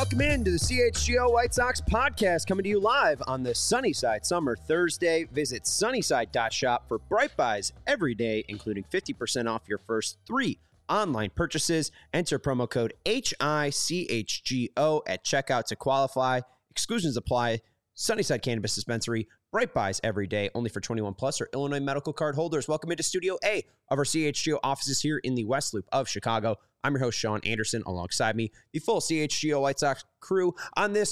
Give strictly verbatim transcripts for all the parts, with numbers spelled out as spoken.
Welcome into the C H G O White Sox podcast, coming to you live on the Sunnyside Summer Thursday. Visit sunnyside dot shop for bright buys every day, including fifty percent off your first three online purchases. Enter promo code H I C H G O at checkout to qualify. Exclusions apply. Sunnyside Cannabis Dispensary. Bright buys every day, only for twenty-one plus or Illinois medical card holders. Welcome into Studio A of our C H G O offices here in the West Loop of Chicago. I'm your host, Sean Anderson, alongside me, the full C H G O White Sox crew on this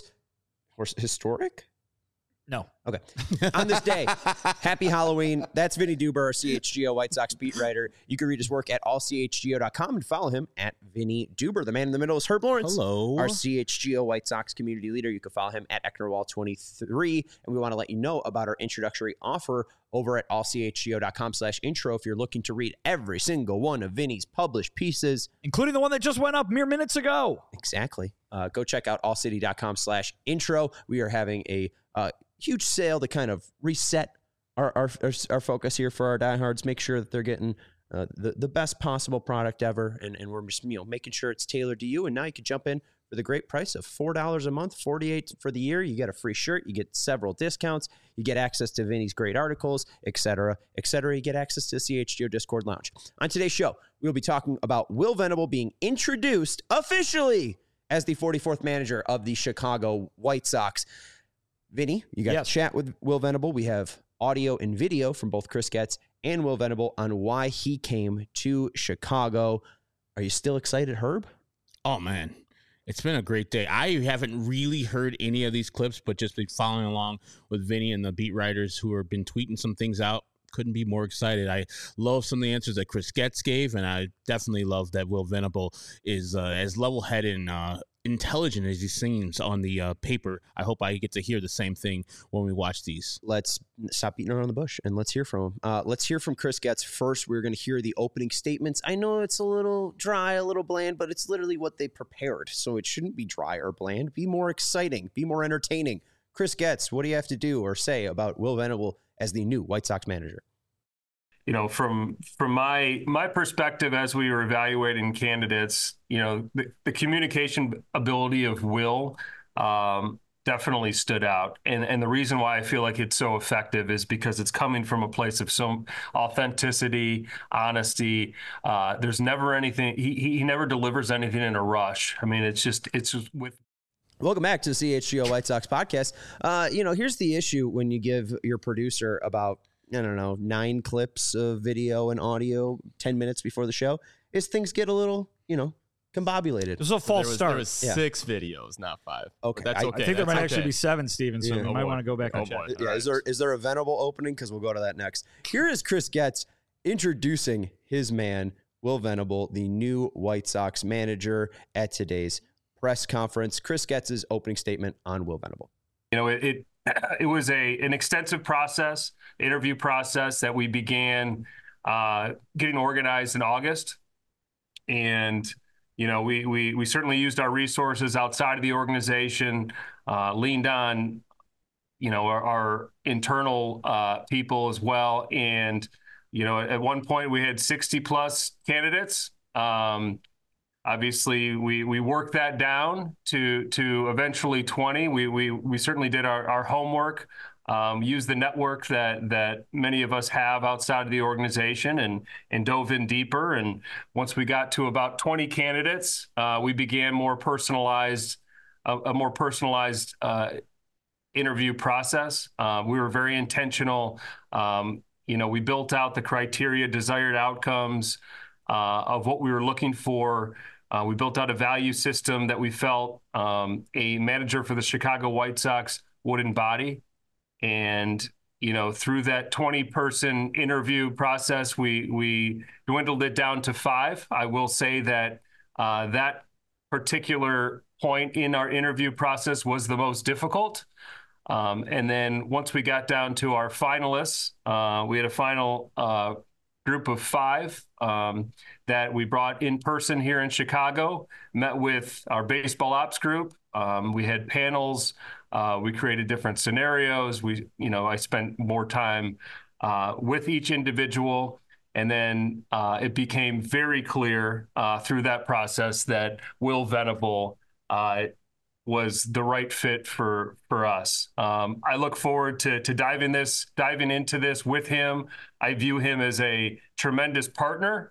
historic? No. Okay. On this day, happy Halloween. That's Vinny Duber, our C H G O White Sox beat writer. You can read his work at all c h g o dot com and follow him at Vinny Duber. The man in the middle is Herb Lawrence. Hello. Our C H G O White Sox community leader. You can follow him at Ecknerwall twenty-three. And we want to let you know about our introductory offer over at all c h g o dot com slash intro if you're looking to read every single one of Vinny's published pieces. Including the one that just went up mere minutes ago. Exactly. Uh, go check out all city dot com slash intro. We are having a uh, huge sale to kind of reset our, our our our focus here for our diehards. Make sure that they're getting uh, the the best possible product ever, and and we're just you know making sure it's tailored to you. And now you can jump in for the great price of four dollars a month, forty-eight dollars for the year. You get a free shirt, you get several discounts, you get access to Vinny's great articles, et cetera, et cetera. You get access to the C H G O Discord Lounge. On today's show, we'll be talking about Will Venable being introduced officially as the forty-fourth manager of the Chicago White Sox. Vinny, you got yes. to chat with Will Venable. We have audio and video from both Chris Getz and Will Venable on why he came to Chicago. Are you still excited, Herb? Oh, man. It's been a great day. I haven't really heard any of these clips, but just been following along with Vinny and the beat writers who have been tweeting some things out. Couldn't be more excited. I love some of the answers that Chris Getz gave, and I definitely love that Will Venable is uh, as level-headed and uh, intelligent as he seems on the uh, paper. I hope I get to hear the same thing when we watch these. Let's stop beating around the bush and let's hear from him. Uh, let's hear from Chris Getz first. We're going to hear the opening statements. I know it's a little dry, a little bland, but it's literally what they prepared, so it shouldn't be dry or bland. Be more exciting. Be more entertaining. Chris Getz, what do you have to do or say about Will Venable as the new White Sox manager? You know, from from my my perspective, as we were evaluating candidates, you know, the, the communication ability of Will um, definitely stood out. And and the reason why I feel like it's so effective is because it's coming from a place of some authenticity, honesty. Uh, there's never anything. He he never delivers anything in a rush. I mean, it's just it's just with. Welcome back to the C H G O White Sox podcast. Uh, you know, here's the issue when you give your producer about, I don't know, nine clips of video and audio ten minutes before the show, is things get a little, you know, combobulated. This is a false there was, start. There was Yeah. six videos, not five. Okay. But that's I- okay. I think there that's might okay. actually be seven, Steven, so Yeah. we Oh, might boy. want to go back and Oh, check. boy. Yeah, All is there is there a Venable opening? Because we'll go to that next. Here is Chris Getz introducing his man, Will Venable, the new White Sox manager, at today's press conference. Chris Getz's opening statement on Will Venable. You know, it, it it was a an extensive process, interview process that we began uh, getting organized in August, and you know, we we we certainly used our resources outside of the organization, uh, leaned on, you know, our, our internal uh, people as well, and you know, at one point we had sixty plus candidates. Um, Obviously, we we worked that down to to eventually twenty. We we we certainly did our, our homework, um, used the network that that many of us have outside of the organization, and and dove in deeper. And once we got to about twenty candidates, uh, we began more personalized, a, a more personalized uh, interview process. Uh, we were very intentional. Um, you know, we built out the criteria, desired outcomes uh, of what we were looking for. Uh, we built out a value system that we felt um, a manager for the Chicago White Sox would embody. And, you know, through that twenty person interview process, we we dwindled it down to five. I will say that uh, that particular point in our interview process was the most difficult. Um, and then once we got down to our finalists, uh, we had a final uh, group of five um, that we brought in person here in Chicago, met with our baseball ops group. Um, we had panels. Uh, we created different scenarios. We, you know, I spent more time uh, with each individual. And then uh, it became very clear uh, through that process that Will Venable uh, was the right fit for for us. Um, I look forward to to diving this diving into this with him. I view him as a tremendous partner.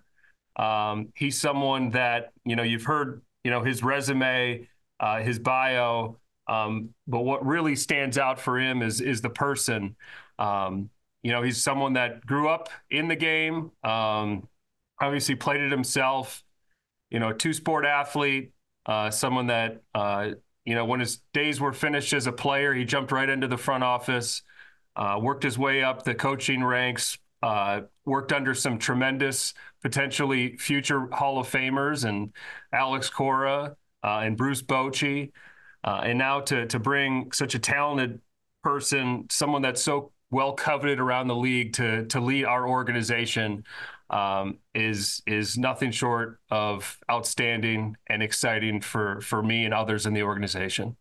Um, he's someone that, you know, you've heard, you know, his resume, uh, his bio, um, but what really stands out for him is is the person. Um, you know, he's someone that grew up in the game, um, obviously played it himself, you know, two-sport athlete, uh, someone that, uh, you know, when his days were finished as a player, he jumped right into the front office, uh, worked his way up the coaching ranks, uh, worked under some tremendous, potentially future Hall of Famers and Alex Cora uh, and Bruce Bochy. Uh, and now to to bring such a talented person, someone that's so well coveted around the league to to lead our organization um, is is nothing short of outstanding and exciting for for me and others in the organization.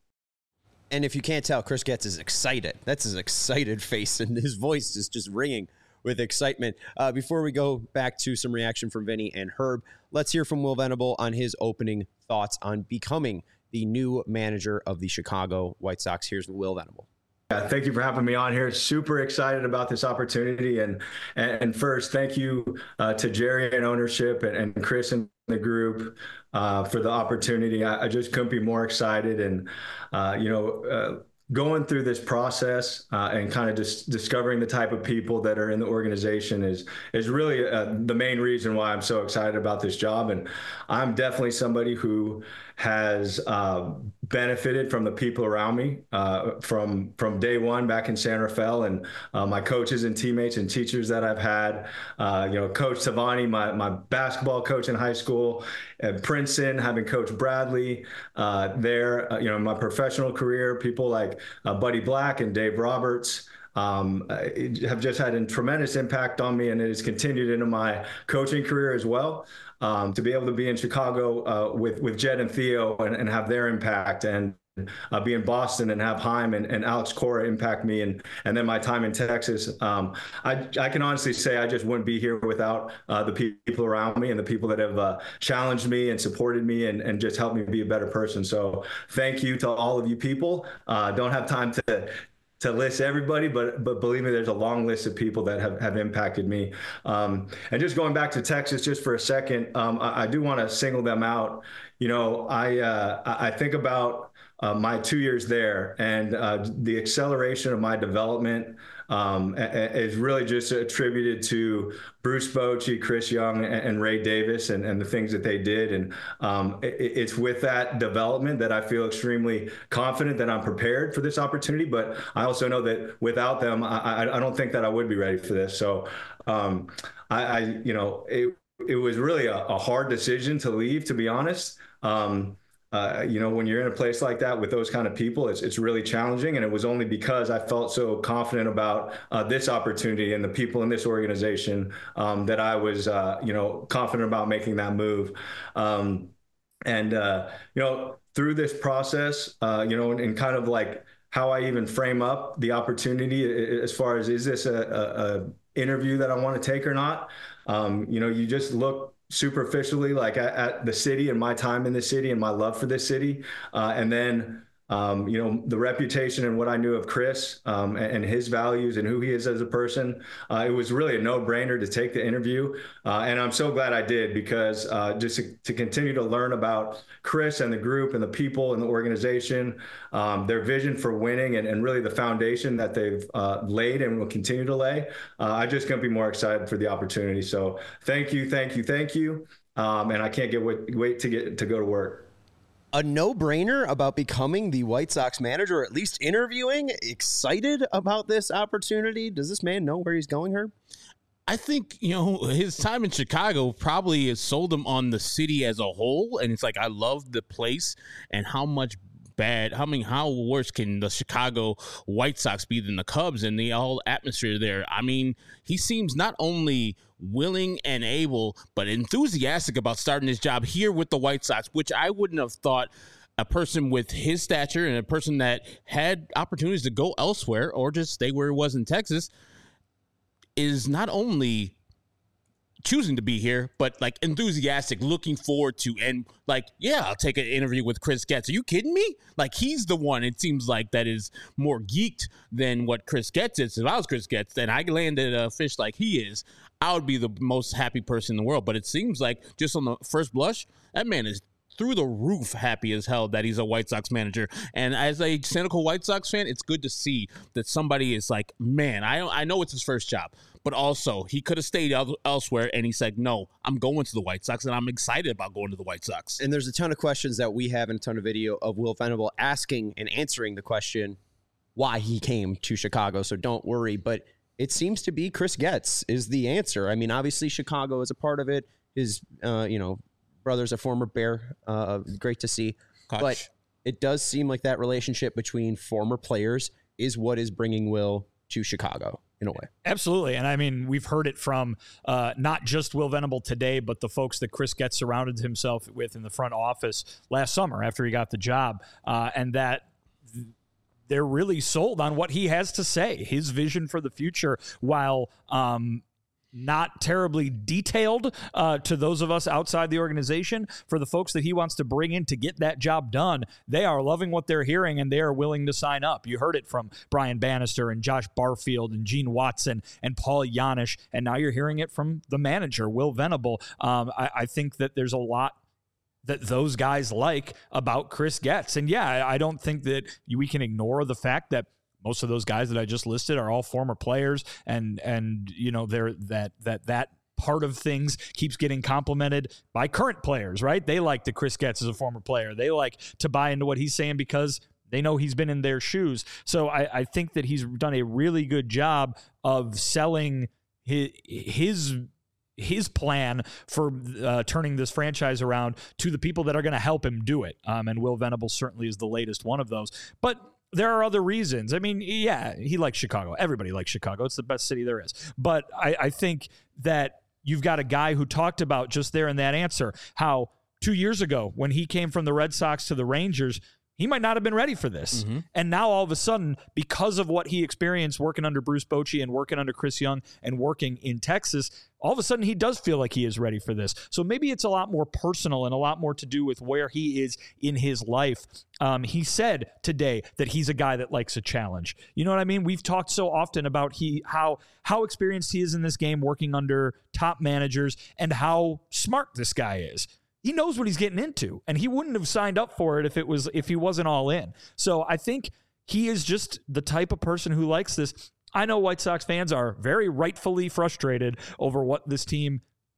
And if you can't tell, Chris Getz is excited. That's his excited face, and his voice is just ringing with excitement. Uh, before we go back to some reaction from Vinny and Herb, let's hear from Will Venable on his opening thoughts on becoming the new manager of the Chicago White Sox. Here's Will Venable. Yeah, thank you for having me on here. Super excited about this opportunity. And and first, thank you uh, to Jerry and ownership and, and Chris and the group uh, for the opportunity. I, I just couldn't be more excited. And, uh, you know, uh, going through this process uh, and kind of just discovering the type of people that are in the organization is is really uh, the main reason why I'm so excited about this job. And I'm definitely somebody who has uh, benefited from the people around me uh, from from day one back in San Rafael, and uh, my coaches and teammates and teachers that I've had. Uh, you know, Coach Savani, my my basketball coach in high school, at Princeton, having Coach Bradley uh, there. Uh, you know, in my professional career, people like uh, Buddy Black and Dave Roberts. Um, have just had a tremendous impact on me, and it has continued into my coaching career as well. Um, to be able to be in Chicago uh, with with Jed and Theo and, and have their impact, and uh, be in Boston and have Haim and, and Alex Cora impact me, and and then my time in Texas. Um, I I can honestly say I just wouldn't be here without uh, the people around me and the people that have uh, challenged me and supported me and, and just helped me be a better person. So thank you to all of you people. Uh, don't have time to. to list everybody, but but believe me, there's a long list of people that have, have impacted me. Um, and just going back to Texas just for a second, um, I, I do want to single them out. You know, I uh, I think about uh, my two years there, and uh, the acceleration of my development um, is really just attributed to Bruce Bochy, Chris Young, and Ray Davis, and, and the things that they did. And um, it, it's with that development that I feel extremely confident that I'm prepared for this opportunity. But I also know that without them, I, I don't think that I would be ready for this. So um, I, I, you know, it, it was really a, a hard decision to leave, to be honest. Um, Uh, you know, when you're in a place like that with those kind of people, it's it's really challenging. And it was only because I felt so confident about uh, this opportunity and the people in this organization um, that I was, uh, you know, confident about making that move. Um, and, uh, you know, through this process, uh, you know, and, and kind of like how I even frame up the opportunity as far as, is this a, a, a interview that I want to take or not? Um, you know, you just look superficially like at, at the city and my time in the city and my love for this city. Uh, and then, um, you know, the reputation and what I knew of Chris um, and, and his values and who he is as a person. Uh, it was really a no-brainer to take the interview. Uh, and I'm so glad I did, because uh, just to, to continue to learn about Chris and the group and the people and the organization, um, their vision for winning, and, and really the foundation that they've uh, laid and will continue to lay. Uh, I just couldn't be more excited for the opportunity. So thank you, thank you, thank you. Um, and I can't get wait, wait to get to go to work. A no-brainer about becoming the White Sox manager, or at least interviewing. Excited about this opportunity. Does this man know where he's going, Herb? I think, you know, his time in Chicago probably has sold him on the city as a whole. And it's like, I love the place and how much bad, how I mean, how worse can the Chicago White Sox be than the Cubs and the whole atmosphere there? I mean, he seems not only willing and able, but enthusiastic about starting his job here with the White Sox, which I wouldn't have thought a person with his stature and a person that had opportunities to go elsewhere or just stay where he was in Texas is not only choosing to be here, but like enthusiastic, looking forward to, and like, yeah, I'll take an interview with Chris Getz. Are you kidding me? Like, he's the one, it seems like, that is more geeked than what Chris Getz is. If I was Chris Getz, then I landed a fish like he is, I would be the most happy person in the world. But it seems like, just on the first blush, that man is through the roof happy as hell that he's a White Sox manager. And as a cynical White Sox fan, it's good to see that somebody is like, man, I I know it's his first job, but also he could have stayed el- elsewhere, and he said, no, I'm going to the White Sox, and I'm excited about going to the White Sox. And there's a ton of questions that we have and a ton of video of Will Venable asking and answering the question why he came to Chicago, so don't worry. But it seems to be Chris Getz is the answer. I mean, obviously Chicago is a part of it. His, uh, you know, brother's a former Bear. Uh, great to see. Gosh. But it does seem like that relationship between former players is what is bringing Will to Chicago in a way. Absolutely. And I mean, we've heard it from uh, not just Will Venable today, but the folks that Chris Getz surrounded himself with in the front office last summer after he got the job. Uh, and that th- they're really sold on what he has to say, his vision for the future, while um, not terribly detailed uh, to those of us outside the organization. For the folks that he wants to bring in to get that job done, they are loving what they're hearing, and they are willing to sign up. You heard it from Brian Bannister and Josh Barfield and Gene Watson and Paul Janisch, and now you're hearing it from the manager, Will Venable. Um, I, I think that there's a lot that those guys like about Chris Getz. And yeah, I, I don't think that we can ignore the fact that most of those guys that I just listed are all former players, and and you know they're that that that part of things keeps getting complimented by current players, right? They like that Chris Getz is a former player. They like to buy into what he's saying because they know he's been in their shoes. So I, I think that he's done a really good job of selling his his his plan for uh, turning this franchise around to the people that are going to help him do it. Um, and Will Venable certainly is the latest one of those. But there are other reasons. I mean, yeah, he likes Chicago. Everybody likes Chicago. It's the best city there is. But I, I think that you've got a guy who talked about just there in that answer how two years ago when he came from the Red Sox to the Rangers, he might not have been ready for this. Mm-hmm. And now all of a sudden, because of what he experienced working under Bruce Bochy and working under Chris Young and working in Texas, all of a sudden he does feel like he is ready for this. So maybe it's a lot more personal and a lot more to do with where he is in his life. Um, he said today that he's a guy that likes a challenge. You know what I mean? We've talked so often about he how how experienced he is in this game working under top managers and how smart this guy is. He knows what he's getting into, and he wouldn't have signed up for it if it was if he wasn't all in. So I think he is just the type of person who likes this. I know White Sox fans are very rightfully frustrated over what this team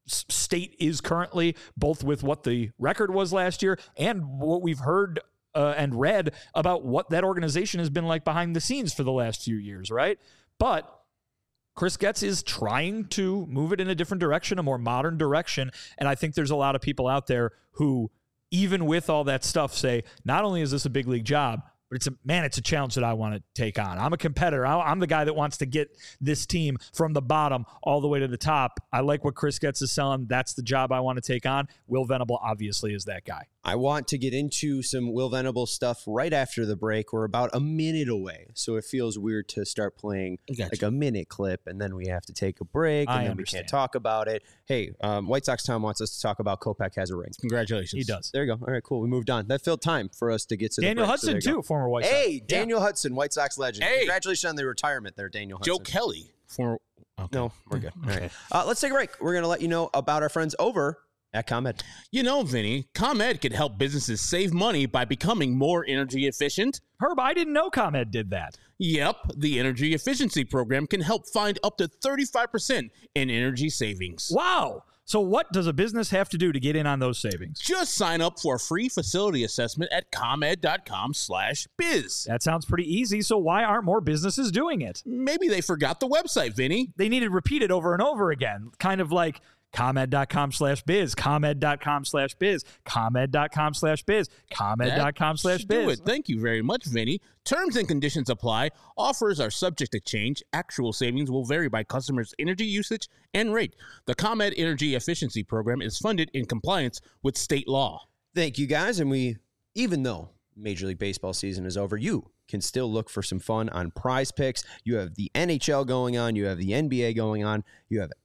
state is currently, both with what the record was last year and what we've heard uh, and read about what that organization has been like behind the scenes for the last few years, right? But Chris Getz is trying to move it in a different direction, a more modern direction. And I think there's a lot of people out there who, even with all that stuff, say, not only is this a big league job, but it's a, man, it's a challenge that I want to take on. I'm a competitor. I, I'm the guy that wants to get this team from the bottom all the way to the top. I like what Chris Getz is selling. That's the job I want to take on. Will Venable obviously is that guy. I want to get into some Will Venable stuff right after the break. We're about a minute away, so it feels weird to start playing Gotcha. like a minute clip, and then we have to take a break, and I then understand. we can't talk about it. Hey, um, White Sox Tom wants us to talk about Kopech has a ring. Congratulations. He does. There you go. All right, cool. We moved on. That filled time for us to get to Daniel the break, so Hudson, there you go. too, former White Sox. Hey, Daniel Hudson, White Sox legend. Hey. Congratulations on the retirement there, Daniel Hudson. Joe Kelly. For, okay. No, we're good. All right. Uh, let's take a break. We're going to let you know about our friends over at ComEd. You know, Vinny, ComEd can help businesses save money by becoming more energy efficient. Herb, I didn't know ComEd did that. Yep, the Energy Efficiency Program can help find up to thirty-five percent in energy savings. Wow. So what does a business have to do to get in on those savings? Just sign up for a free facility assessment at ComEd.com slash biz. That sounds pretty easy, so why aren't more businesses doing it? Maybe they forgot the website, Vinny. They need to repeat it over and over again, kind of like ComEd.com slash biz, ComEd.com slash biz, ComEd.com slash biz, ComEd.com slash should do biz. it. Thank you very much, Vinny. Terms and conditions apply. Offers are subject to change. Actual savings will vary by customers' energy usage and rate. The ComEd Energy Efficiency Program is funded in compliance with state law. Thank you, guys. And we, even though Major League Baseball season is over, you can still look for some fun on Prize Picks. You have the N H L going on. You have the N B A going on. You have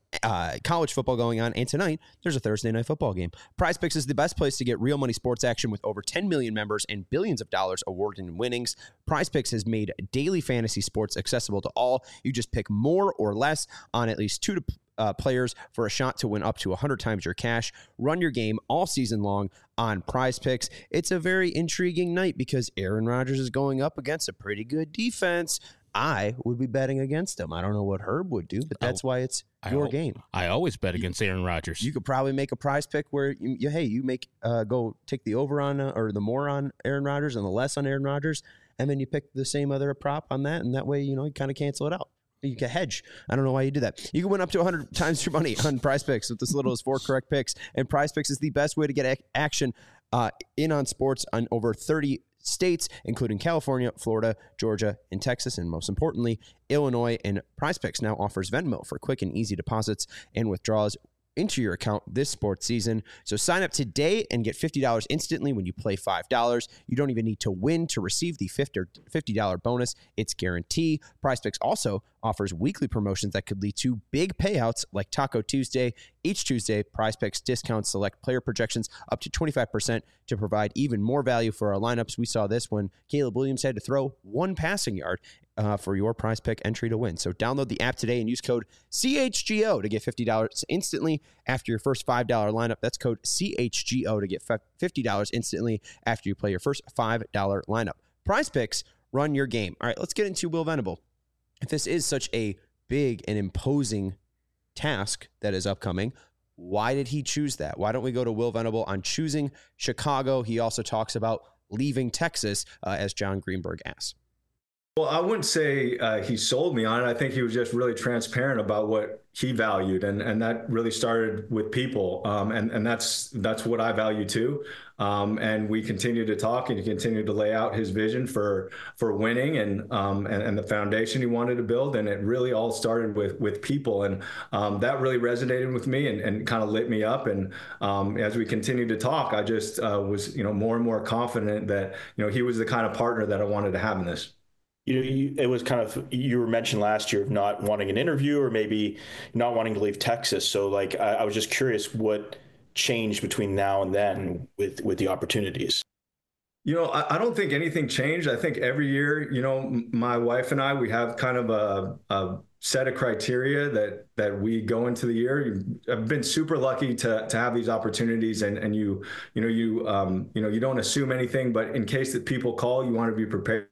uh, college football going on, and tonight there's a Thursday night football game. PrizePicks is the best place to get real money sports action with over ten million members and billions of dollars awarded in winnings. PrizePicks has made daily fantasy sports accessible to all. You just pick more or less on at least two to Uh, players for a shot to win up to one hundred times your cash. Run your game all season long on PrizePicks. It's a very intriguing night because Aaron Rodgers is going up against a pretty good defense. I would be betting against him. I don't know what Herb would do, but that's why it's your I, game. I always bet against Aaron Rodgers. You could probably make a prize pick where you, you hey, you make uh, go take the over on uh, or the more on Aaron Rodgers and the less on Aaron Rodgers, and then you pick the same other prop on that, and that way you know you kind of cancel it out. You can hedge. I don't know why you do that. You can win up to one hundred times your money on PrizePicks with as little as four correct picks. And PrizePicks is the best way to get ac- action uh, in on sports on over thirty states, including California, Florida, Georgia, and Texas, and most importantly, Illinois. And PrizePicks now offers Venmo for quick and easy deposits and withdrawals into your account this sports season. So sign up today and get fifty dollars instantly when you play five dollars. You don't even need to win to receive the fifty dollars bonus. It's guaranteed. PrizePicks also offers weekly promotions that could lead to big payouts like Taco Tuesday. Each Tuesday, PrizePicks discounts select player projections up to twenty-five percent to provide even more value for our lineups. We saw this when Caleb Williams had to throw one passing yard uh, for your PrizePick entry to win. So download the app today and use code C H G O to get fifty dollars instantly after your first five dollars lineup. That's code C H G O to get fifty dollars instantly after you play your first five dollars lineup. PrizePicks, run your game. All right, let's get into Will Venable. If this is such a big and imposing task that is upcoming, why did he choose that? Why don't we go to Will Venable on choosing Chicago? He also talks about leaving Texas, uh, as John Greenberg asks. Well, I wouldn't say uh, he sold me on it. I think he was just really transparent about what he valued, and and that really started with people, um, and and that's that's what I value too. Um, and we continue to talk, and he continued to lay out his vision for for winning, and um, and, and the foundation he wanted to build. And it really all started with with people, and um, that really resonated with me, and, and kind of lit me up. And um, as we continued to talk, I just uh, was you know more and more confident that you know he was the kind of partner that I wanted to have in this. You know, you, it was kind of, you were mentioned last year of not wanting an interview or maybe not wanting to leave Texas. So like, I, I was just curious what changed between now and then with, with the opportunities. You know, I, I don't think anything changed. I think every year, you know, my wife and I, we have kind of a, a set of criteria that that we go into the year. I've been super lucky to to have these opportunities, and and you, you know, you um, you know, you don't assume anything, but in case that people call, you want to be prepared.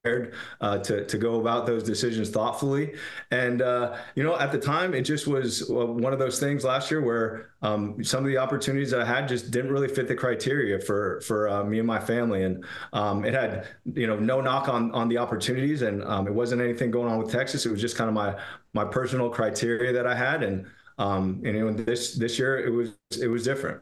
Uh, to to go about those decisions thoughtfully. And uh, you know, at the time, it just was one of those things last year where um, some of the opportunities that I had just didn't really fit the criteria for for uh, me and my family. And um, it had you know no knock on on the opportunities, and um, it wasn't anything going on with Texas. It was just kind of my my personal criteria that I had. And um, and you know, this this year it was it was different.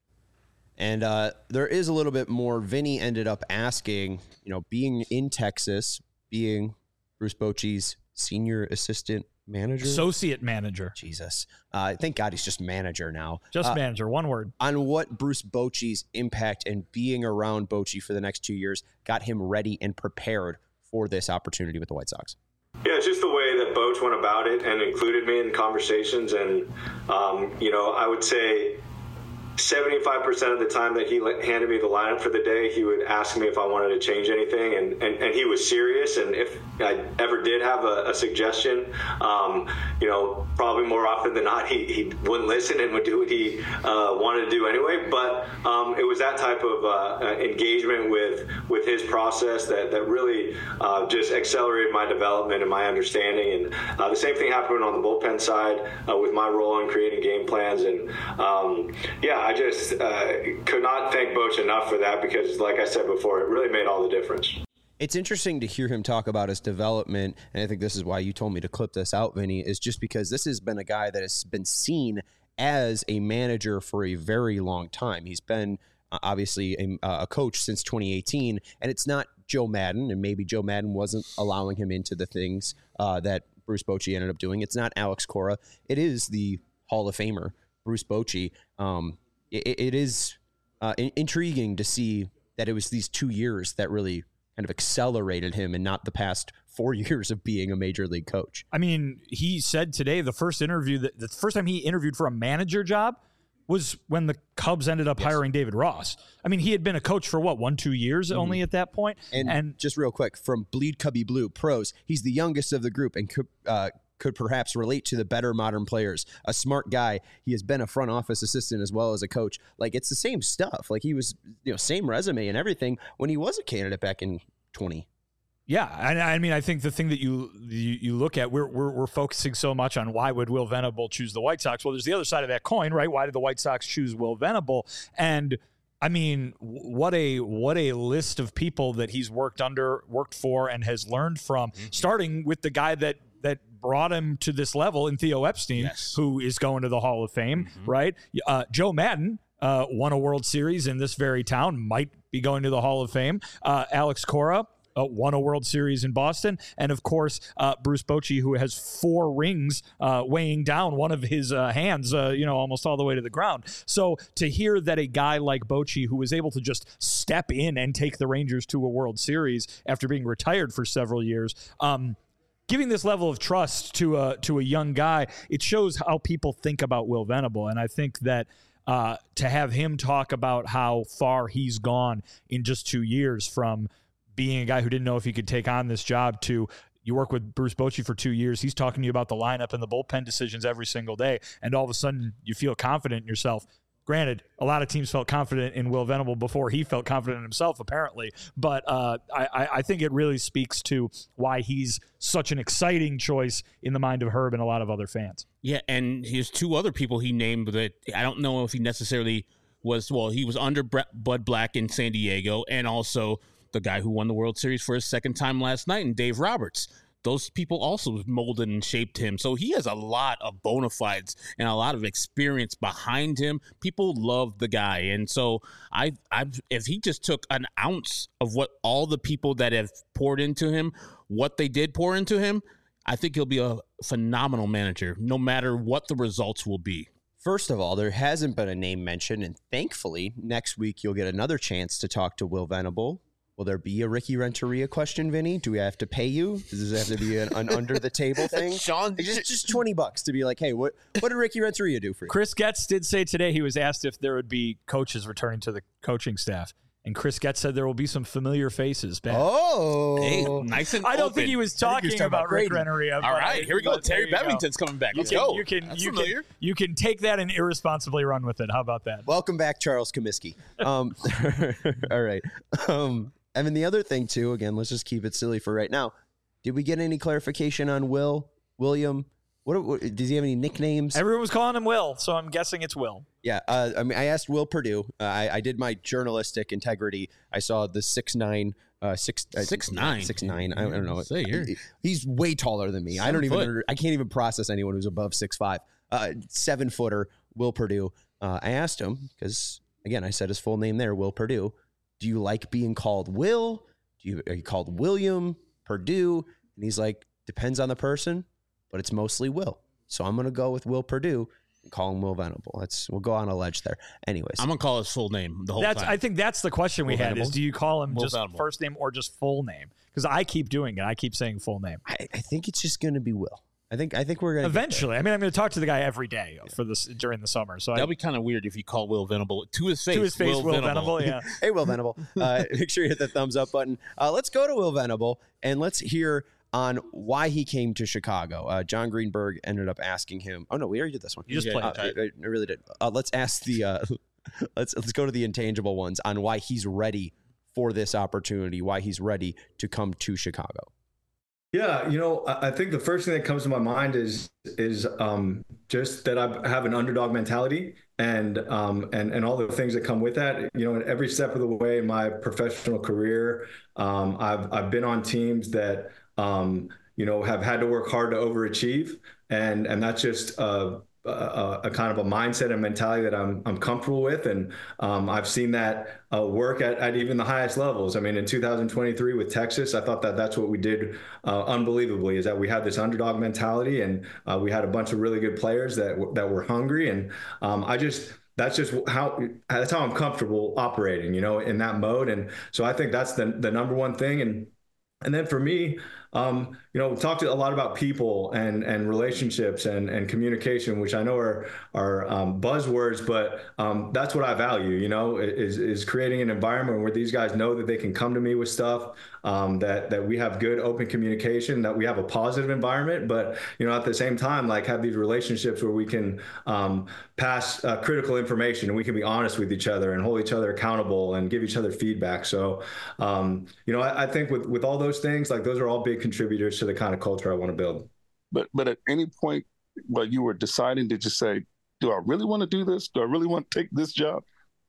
And uh, there is a little bit more. Vinny ended up asking, you know, being in Texas, being Bruce Bochy's senior assistant manager, associate manager. Jesus, uh, thank God he's just manager now. Just uh, manager, one word. On what Bruce Bochy's impact and being around Bochy for the next two years got him ready and prepared for this opportunity with the White Sox. Yeah, it's just the way that Boch went about it and included me in conversations, and um, you know, I would say seventy-five percent of the time that he handed me the lineup for the day, he would ask me if I wanted to change anything, and, and, and he was serious. And if I ever did have a, a suggestion, um, you know, probably more often than not, he, he wouldn't listen and would do what he uh, wanted to do anyway. But um, it was that type of uh, engagement with with his process that, that really uh, just accelerated my development and my understanding. And uh, the same thing happened on the bullpen side uh, with my role in creating game plans. And um, yeah, I just uh, could not thank Boch enough for that, because, like I said before, it really made all the difference. It's interesting to hear him talk about his development, and I think this is why you told me to clip this out, Vinny, is just because this has been a guy that has been seen as a manager for a very long time. He's been uh, obviously a, a coach since twenty eighteen, and it's not Joe Madden, and maybe Joe Madden wasn't allowing him into the things uh, that Bruce Bochy ended up doing. It's not Alex Cora. It is the Hall of Famer, Bruce Bochy. Um, It, it is uh, in, intriguing to see that it was these two years that really kind of accelerated him and not the past four years of being a major league coach. I mean, he said today the first interview that the first time he interviewed for a manager job was when the Cubs ended up yes. hiring David Ross. I mean, he had been a coach for what, one, two years mm-hmm. only at that point. And, and just real quick, from Bleed Cubby Blue Pros, he's the youngest of the group and could, uh, could perhaps relate to the better modern players. A smart guy. He has been a front office assistant as well as a coach. Like, it's the same stuff. Like, he was, you know, same resume and everything when he was a candidate back in twenty. Yeah, I, I mean, I think the thing that you, you you look at, we're, we're we're focusing so much on why would Will Venable choose the White Sox. Well, there's the other side of that coin, right? Why did the White Sox choose Will Venable? And I mean, what a what a list of people that he's worked under, worked for, and has learned from. Mm-hmm. Starting with the guy that that brought him to this level in Theo Epstein, yes. who is going to the Hall of Fame, mm-hmm. right? Uh, Joe Madden. Uh, won a World Series in this very town, might be going to the Hall of Fame. Uh, Alex Cora. Uh, won a World Series in Boston. And, of course, uh, Bruce Bochy, who has four rings uh, weighing down one of his uh, hands, uh, you know, almost all the way to the ground. So to hear that a guy like Bochy, who was able to just step in and take the Rangers to a World Series after being retired for several years, um, giving this level of trust to a, to a young guy, it shows how people think about Will Venable. And I think that uh, to have him talk about how far he's gone in just two years from being a guy who didn't know if he could take on this job to you work with Bruce Bochy for two years. He's talking to you about the lineup and the bullpen decisions every single day. And all of a sudden you feel confident in yourself. Granted, a lot of teams felt confident in Will Venable before he felt confident in himself, apparently. But uh, I, I think it really speaks to why he's such an exciting choice in the mind of Herb and a lot of other fans. Yeah, and here's two other people he named that I don't know if he necessarily was, well, he was under Bud Black in San Diego, and also the guy who won the World Series for his second time last night, and Dave Roberts. Those people also molded and shaped him. So he has a lot of bona fides and a lot of experience behind him. People love the guy. And so I, I've, if he just took an ounce of what all the people that have poured into him, what they did pour into him, I think he'll be a phenomenal manager, no matter what the results will be. First of all, there hasn't been a name mentioned, and thankfully, next week you'll get another chance to talk to Will Venable. Will there be a Ricky Renteria question, Vinny? Do we have to pay you? Does this have to be an, an under-the-table thing? Sean, just, just twenty bucks to be like, hey, what, what did Ricky Renteria do for you? Chris Getz did say today he was asked if there would be coaches returning to the coaching staff. And Chris Getz said there will be some familiar faces back. Oh, hey, nice and I don't open. think he was talking, he was talking about, about Rick Renteria. All right, here we go. Terry Bevington's go. coming back. You Let's can, go. You can, That's you familiar. can, you can take that and irresponsibly run with it. How about that? Welcome back, Charles Comiskey. Um, all right. Um, I mean, the other thing, too, again, let's just keep it silly for right now. Did we get any clarification on Will, William? What, what does he have any nicknames? Everyone was calling him Will, so I'm guessing it's Will. Yeah, uh, I mean, I asked Will Perdue. Uh, I, I did my journalistic integrity. I saw the six nine, uh, six uh, six nine, six nine. I, I don't know. Say you're, he's way taller than me. Seven I don't even. foot. I can't even process anyone who's above six five. Uh, seven footer, Will Perdue. Uh, I asked him because again, I said his full name there, Will Perdue. Do you like being called Will? Do you are you called William Perdue? And he's like, depends on the person, but it's mostly Will. So I'm gonna go with Will Perdue and call him Will Venable. That's we'll go on a ledge there. Anyways, I'm gonna call his full name the whole that's, time. I think that's the question we Will had: Venable? is do you call him Will just Venable. first name or just full name? Because I keep doing it. I keep saying full name. I, I think it's just gonna be Will. I think I think we're gonna eventually. I mean, I'm gonna talk to the guy every day for this during the summer. So that'll I, be kind of weird if you call Will Venable to his face. To his face, Will, Will Venable. Venable. Yeah. Hey, Will Venable. Uh, make sure you hit the thumbs up button. Uh, let's go to Will Venable and let's hear on why he came to Chicago. Uh, John Greenberg ended up asking him. Oh no, we already did this one. You just played. Uh, I, I really did. Uh, let's ask the. Uh, let's let's go to the intangible ones on why he's ready for this opportunity. Why he's ready to come to Chicago. Yeah, you know, I think the first thing that comes to my mind is is um, just that I have an underdog mentality and um, and and all the things that come with that. You know, every step of the way in my professional career, um, I've I've been on teams that um, you know have had to work hard to overachieve, and and that's just uh, a, a kind of a mindset and mentality that I'm I'm comfortable with, and um, I've seen that uh, work at, at even the highest levels. I mean, in two thousand twenty-three with Texas, I thought that that's what we did uh, unbelievably, is that we had this underdog mentality, and uh, we had a bunch of really good players that that were hungry, and um, I just that's just how that's how I'm comfortable operating, you know, in that mode. And so I think that's the the number one thing. And and then for me, um, you know, we talked a lot about people and and relationships and and communication, which I know are are um, buzzwords, but um, that's what I value. You know, is is creating an environment where these guys know that they can come to me with stuff, um, that that we have good open communication, that we have a positive environment, but you know, at the same time, like have these relationships where we can um, pass uh, critical information and we can be honest with each other and hold each other accountable and give each other feedback. So, um, you know, I, I think with with all those things, like those are all big contributors to the kind of culture I want to build. But but at any point while you were deciding, did you say, do I really want to do this? Do I really want to take this job?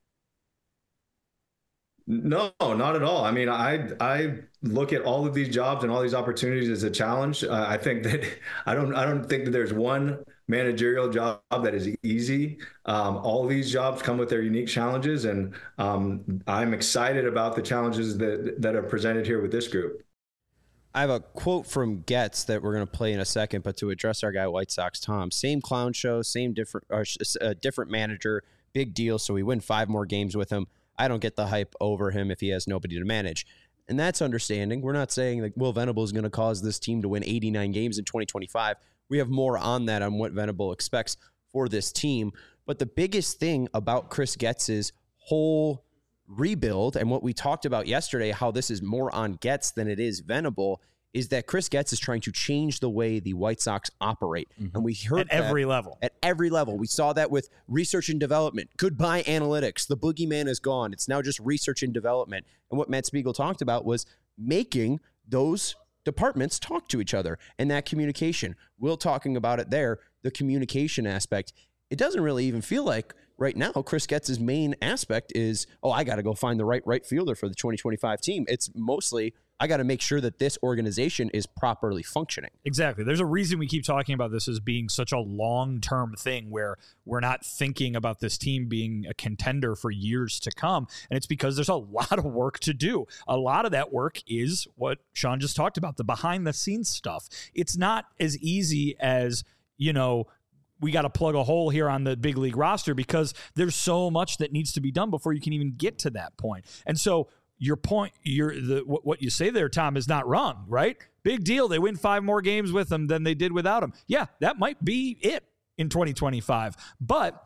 No, not at all. I mean, I I look at all of these jobs and all these opportunities as a challenge. Uh, I think that I don't I don't think that there's one managerial job that is easy. Um, all of these jobs come with their unique challenges, and um, I'm excited about the challenges that that are presented here with this group. I have a quote from Getz that we're going to play in a second, but to address our guy White Sox Tom, same clown show, same different, or uh, different manager, big deal. So we win five more games with him. I don't get the hype over him if he has nobody to manage. And that's understanding. We're not saying that Will Venable is going to cause this team to win eighty-nine games in twenty twenty-five. We have more on that on what Venable expects for this team. But the biggest thing about Chris Getz's whole rebuild and what we talked about yesterday, how this is more on Getz than it is Venable, is that Chris Getz is trying to change the way the White Sox operate. Mm-hmm. And we heard at every level. At every level. We saw that with research and development. Goodbye analytics. The boogeyman is gone. It's now just research and development. And what Matt Spiegel talked about was making those departments talk to each other and that communication. Will talking about it there, the communication aspect. It doesn't really even feel like right now Chris Getz's main aspect is, oh, I got to go find the right right fielder for the twenty twenty-five team. It's mostly, I got to make sure that this organization is properly functioning. Exactly. There's a reason we keep talking about this as being such a long-term thing where we're not thinking about this team being a contender for years to come. And it's because there's a lot of work to do. A lot of that work is what Sean just talked about, the behind-the-scenes stuff. It's not as easy as, you know, we got to plug a hole here on the big league roster because there's so much that needs to be done before you can even get to that point. And so your point, your the what you say there, Tom, is not wrong, right? Big deal. They win five more games with him than they did without him. Yeah, that might be it in twenty twenty-five. But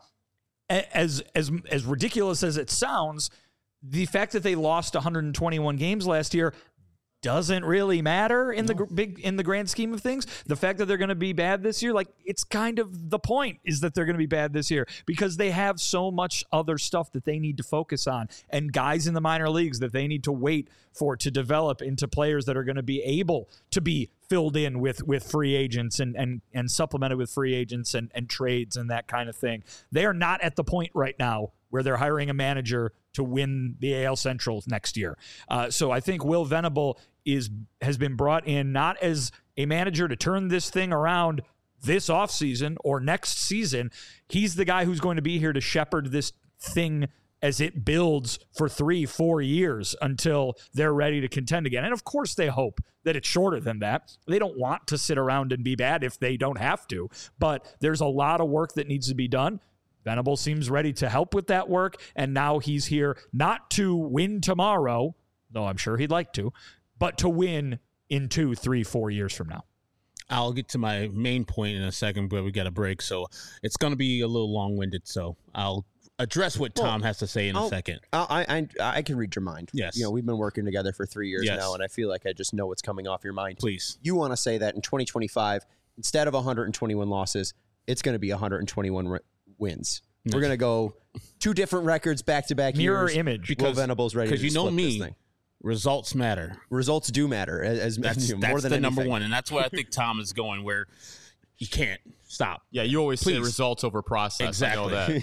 as as as ridiculous as it sounds, the fact that they lost one hundred twenty-one games last year doesn't really matter in no. the big in the grand scheme of things. The fact that they're going to be bad this year, like it's kind of the point is that they're going to be bad this year because they have so much other stuff that they need to focus on and guys in the minor leagues that they need to wait for to develop into players that are going to be able to be filled in with with free agents and and and supplemented with free agents and and trades and that kind of thing. They are not at the point right now where they're hiring a manager to win the A L Central next year. Uh, so I think Will Venable is has been brought in not as a manager to turn this thing around this offseason or next season. He's the guy who's going to be here to shepherd this thing as it builds for three, four years until they're ready to contend again. And of course they hope that it's shorter than that. They don't want to sit around and be bad if they don't have to, but there's a lot of work that needs to be done. Venable seems ready to help with that work, and now he's here not to win tomorrow, though I'm sure he'd like to, but to win in two, three, four years from now. I'll get to my main point in a second, but we got a break, so it's going to be a little long-winded, so I'll address what Tom well, has to say in I'll, a second. I, I I can read your mind. Yes. You know, we've been working together for three years yes. now, and I feel like I just know what's coming off your mind. Please. You want to say that in twenty twenty-five, instead of one hundred twenty-one losses, it's going to be one hundred twenty-one re- wins. We're going to go two different records back-to-back Mirror years. image. Because, Will Venable's ready to Because you know flip me, this thing. Results matter. Results do matter. As, that's you know, that's more than the anything. number one, and that's where I think Tom is going, where you can't stop. Yeah, you always Please. say results over process. Exactly. I know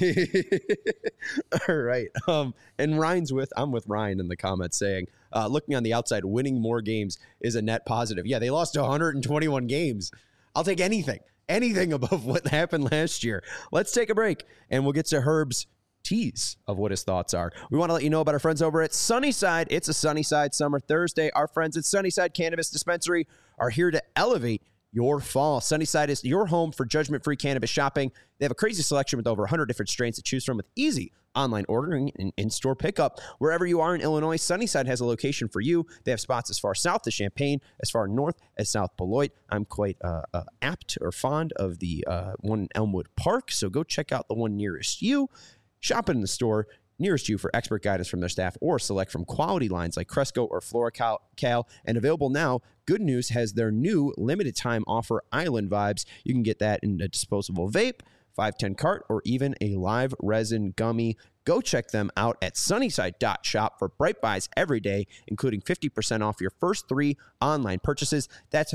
that. All right. Um, and Ryan's with, I'm with Ryan in the comments saying, uh, looking on the outside, winning more games is a net positive. Yeah, they lost one hundred twenty-one games. I'll take anything. Anything above what happened last year. Let's take a break, and we'll get to Herb's tease of what his thoughts are. We want to let you know about our friends over at Sunnyside. It's a Sunnyside Summer Thursday. Our friends at Sunnyside Cannabis Dispensary are here to elevate your fall. Sunnyside is your home for judgment-free cannabis shopping. They have a crazy selection with over one hundred different strains to choose from with easy online ordering and in-store pickup. Wherever you are in Illinois, Sunnyside has a location for you. They have spots as far south as Champaign, as far north as South Beloit. I'm quite uh, uh, apt or fond of the uh, one in Elmwood Park, so go check out the one nearest you. Shop in the store nearest you for expert guidance from their staff or select from quality lines like Cresco or FloraCal. And available now, Good News has their new limited time offer, Island Vibes. You can get that in a disposable vape, five ten cart, or even a live resin gummy. Go check them out at sunnyside dot shop for bright buys every day, including fifty percent off your first three online purchases. That's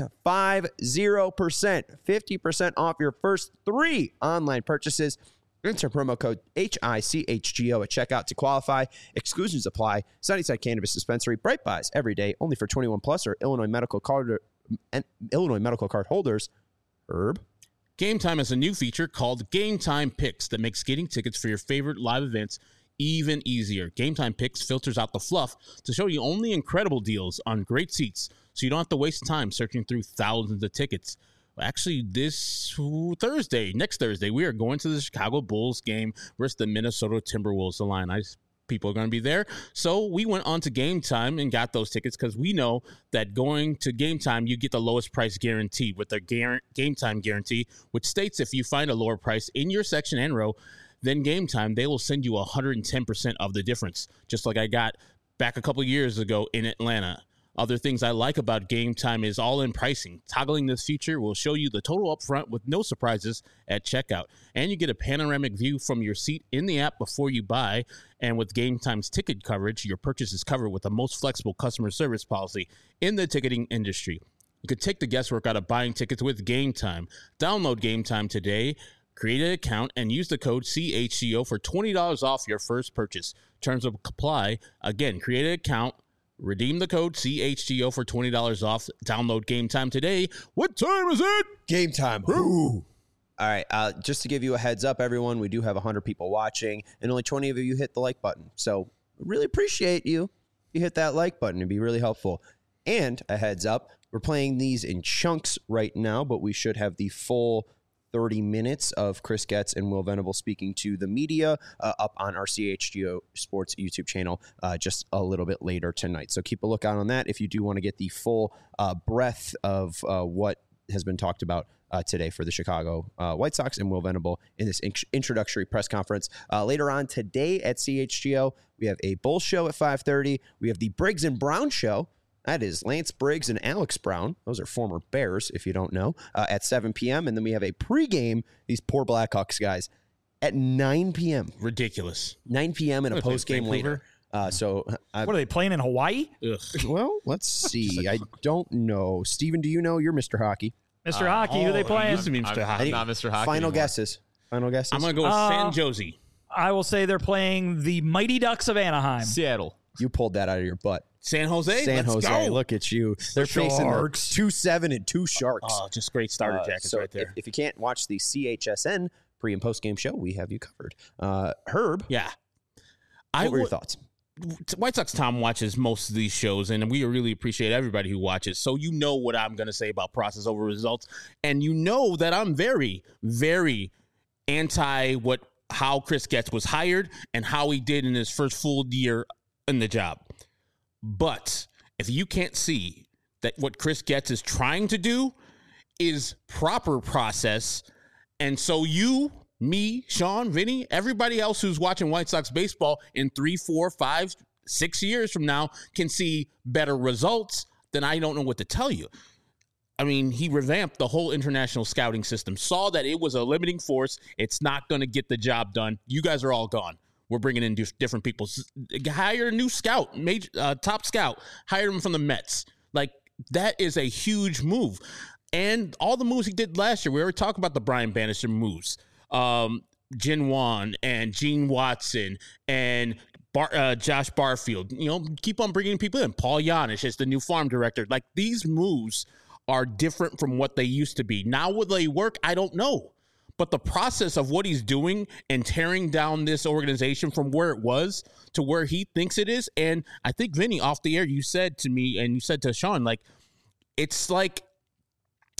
fifty percent, fifty percent off your first three online purchases. Enter promo code H I C H G O at checkout to qualify. Exclusions apply. Sunnyside Cannabis Dispensary. Bright buys every day, only for twenty-one plus or Illinois medical card and Illinois medical card holders. Herb. Game Time has a new feature called Game Time Picks that makes getting tickets for your favorite live events even easier. Game Time Picks filters out the fluff to show you only incredible deals on great seats, so you don't have to waste time searching through thousands of tickets. Actually, this Thursday, next Thursday, we are going to the Chicago Bulls game versus the Minnesota Timberwolves. The Illini people are going to be there. So we went on to Game Time and got those tickets because we know that going to Game Time, you get the lowest price guarantee with their Game Time guarantee, which states if you find a lower price in your section and row than Game Time, they will send you one hundred ten percent of the difference, just like I got back a couple years ago in Atlanta. Other things I like about Game Time is all-in pricing. Toggling this feature will show you the total upfront with no surprises at checkout. And you get a panoramic view from your seat in the app before you buy. And with Game Time's ticket coverage, your purchase is covered with the most flexible customer service policy in the ticketing industry. You could take the guesswork out of buying tickets with Game Time. Download Game Time today, create an account, and use the code C H C O for twenty dollars off your first purchase. Terms apply. Again, create an account, redeem the code C H G O for twenty dollars off. Download Game Time today. What time is it? Game time. Ooh. All right. Uh, just to give you a heads up, everyone, we do have one hundred people watching, and only twenty of you hit the like button. So really appreciate you. You hit that like button. It'd be really helpful. And a heads up, we're playing these in chunks right now, but we should have the full thirty minutes of Chris Getz and Will Venable speaking to the media uh, up on our C H G O Sports YouTube channel uh, just a little bit later tonight. So keep a lookout on that if you do want to get the full uh, breadth of uh, what has been talked about uh, today for the Chicago uh, White Sox and Will Venable in this in- introductory press conference. Uh, later on today at C H G O, we have a Bull show at five thirty. We have the Briggs and Brown show. That is Lance Briggs and Alex Brown. Those are former Bears, if you don't know, uh, at seven p.m. And then we have a pregame, these poor Blackhawks guys, at nine p.m. Ridiculous. nine p.m. and a postgame later. Uh, so uh, What are they playing in Hawaii? Ugh. Well, let's see. I don't know. Steven, do you know? You're Mister Hockey. Mister Uh, Hockey, who are they oh, playing? used to be Mister I'm, Hockey. I'm not Mister Hockey Final anymore. guesses. Final guesses. I'm going to go with Uh, San Jose. I will say they're playing the Mighty Ducks of Anaheim. Seattle. You pulled that out of your butt. San Jose? San Let's Jose. go. Look at you. They're facing the Sharks. two seven and two Sharks. Oh, just great starter Uh, jackets so right there. If, if you can't watch the C H S N pre and post game show, we have you covered. Uh, Herb, yeah. what I were your would- thoughts? White Sox Tom watches most of these shows, and we really appreciate everybody who watches. So you know what I'm going to say about process over results, and you know that I'm very, very anti what how Chris Getz was hired and how he did in his first full year in the job. But if you can't see that what Chris Getz is trying to do is proper process, and so you, me, Sean, Vinny, everybody else who's watching White Sox baseball in three, four, five, six years from now can see better results, then I don't know what to tell you. I mean, he revamped the whole international scouting system, saw that it was a limiting force. It's not going to get the job done. You guys are all gone. We're bringing in different people. Hire a new scout, major, uh, top scout. Hire him from the Mets. Like, that is a huge move. And all the moves he did last year, we already talked about the Brian Bannister moves. Um, Jin Wan and Gene Watson and Bar, uh, Josh Barfield. You know, keep on bringing people in. Paul Janisch is the new farm director. Like, these moves are different from what they used to be. Now, will they work? I don't know. But the process of what he's doing and tearing down this organization from where it was to where he thinks it is, and I think, Vinny, off the air, you said to me, and you said to Sean, like, it's like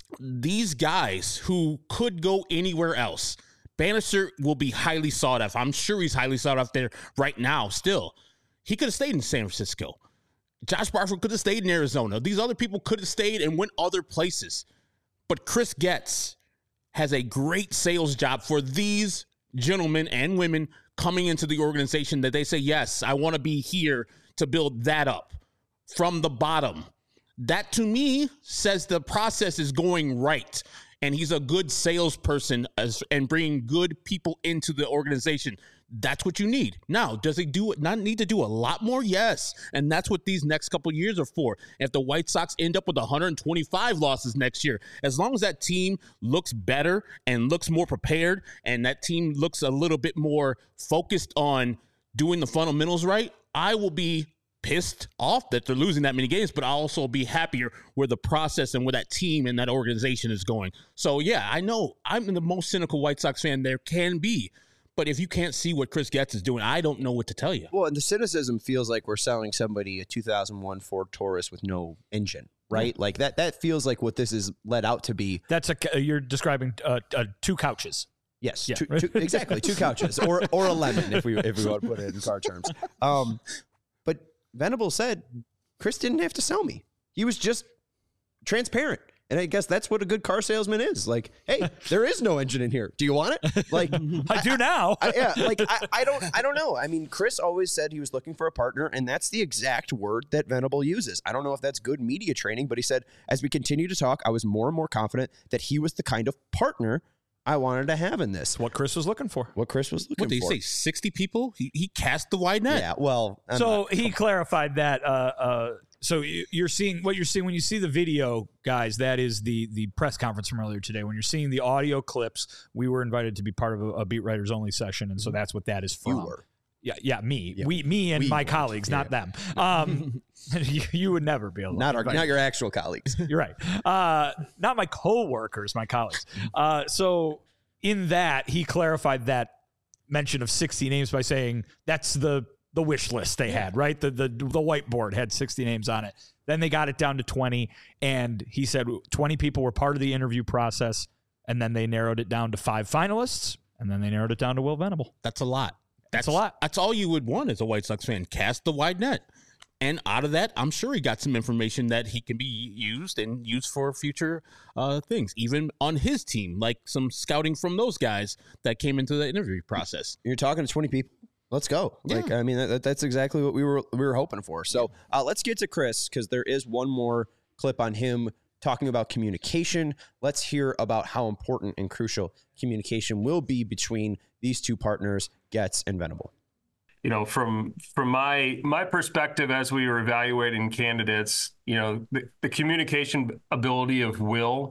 these guys who could go anywhere else, Bannister will be highly sought after. I'm sure he's highly sought after there right now still. He could have stayed in San Francisco. Josh Barford could have stayed in Arizona. These other people could have stayed and went other places. But Chris Getz has a great sales job for these gentlemen and women coming into the organization that they say, yes, I want to be here to build that up from the bottom. That to me says the process is going right. And he's a good salesperson as, and bringing good people into the organization. That's what you need. Now, does he do it? Not need to do a lot more? Yes. And that's what these next couple of years are for. If the White Sox end up with one hundred twenty-five losses next year, as long as that team looks better and looks more prepared, and that team looks a little bit more focused on doing the fundamentals right, I will be pissed off that they're losing that many games, but I'll also be happier where the process and where that team and that organization is going. So, yeah, I know I'm the most cynical White Sox fan there can be. But if you can't see what Chris Getz is doing, I don't know what to tell you. Well, and the cynicism feels like we're selling somebody a two thousand one Ford Taurus with no engine, right? Mm-hmm. Like that that feels like what this is led out to be. That's a you're describing uh, uh, two couches. Yes, yeah. two, two, exactly, two couches or or a lemon if we if we want to put it in car terms. Um, but Venable said Chris didn't have to sell me. He was just transparent. And I guess that's what a good car salesman is. Like, hey, there is no engine in here. Do you want it? Like, I do now. I, yeah, like I, I don't, I don't know. I mean, Chris always said he was looking for a partner, and that's the exact word that Venable uses. I don't know if that's good media training, but he said as we continue to talk, I was more and more confident that he was the kind of partner I wanted to have in this. What Chris was looking for. What Chris was looking for. What did he say? sixty people? He he cast the wide net. Yeah. Well, I'm so not, he clarified that. Uh, uh, so you're seeing what you're seeing when you see the video, guys. That is the the press conference from earlier today. When you're seeing the audio clips, we were invited to be part of a, a Beat Writers Only session, and so that's what that is from. You were. Yeah, yeah, me, yeah. we, me, and we my were. colleagues, yeah. not them. Um, you, you would never be able. Not our, not your actual colleagues. You're right. Uh, not my coworkers, my colleagues. Uh, so in that, he clarified that mention of sixty names by saying that's the the wish list they had, right? The the the whiteboard had sixty names on it. Then they got it down to twenty, and he said twenty people were part of the interview process, and then they narrowed it down to five finalists, and then they narrowed it down to Will Venable. That's a lot. That's, that's a lot. That's all you would want as a White Sox fan. Cast the wide net. And out of that, I'm sure he got some information that he can be used and used for future uh, things, even on his team, like some scouting from those guys that came into the interview process. You're talking to twenty people. Let's go. Yeah. Like, I mean, that, that's exactly what we were we were hoping for. So uh, let's get to Chris, because there is one more clip on him talking about communication. Let's hear about how important and crucial communication will be between these two partners, Getz and Venable. You know, from from my my perspective, as we were evaluating candidates, you know, the, the communication ability of Will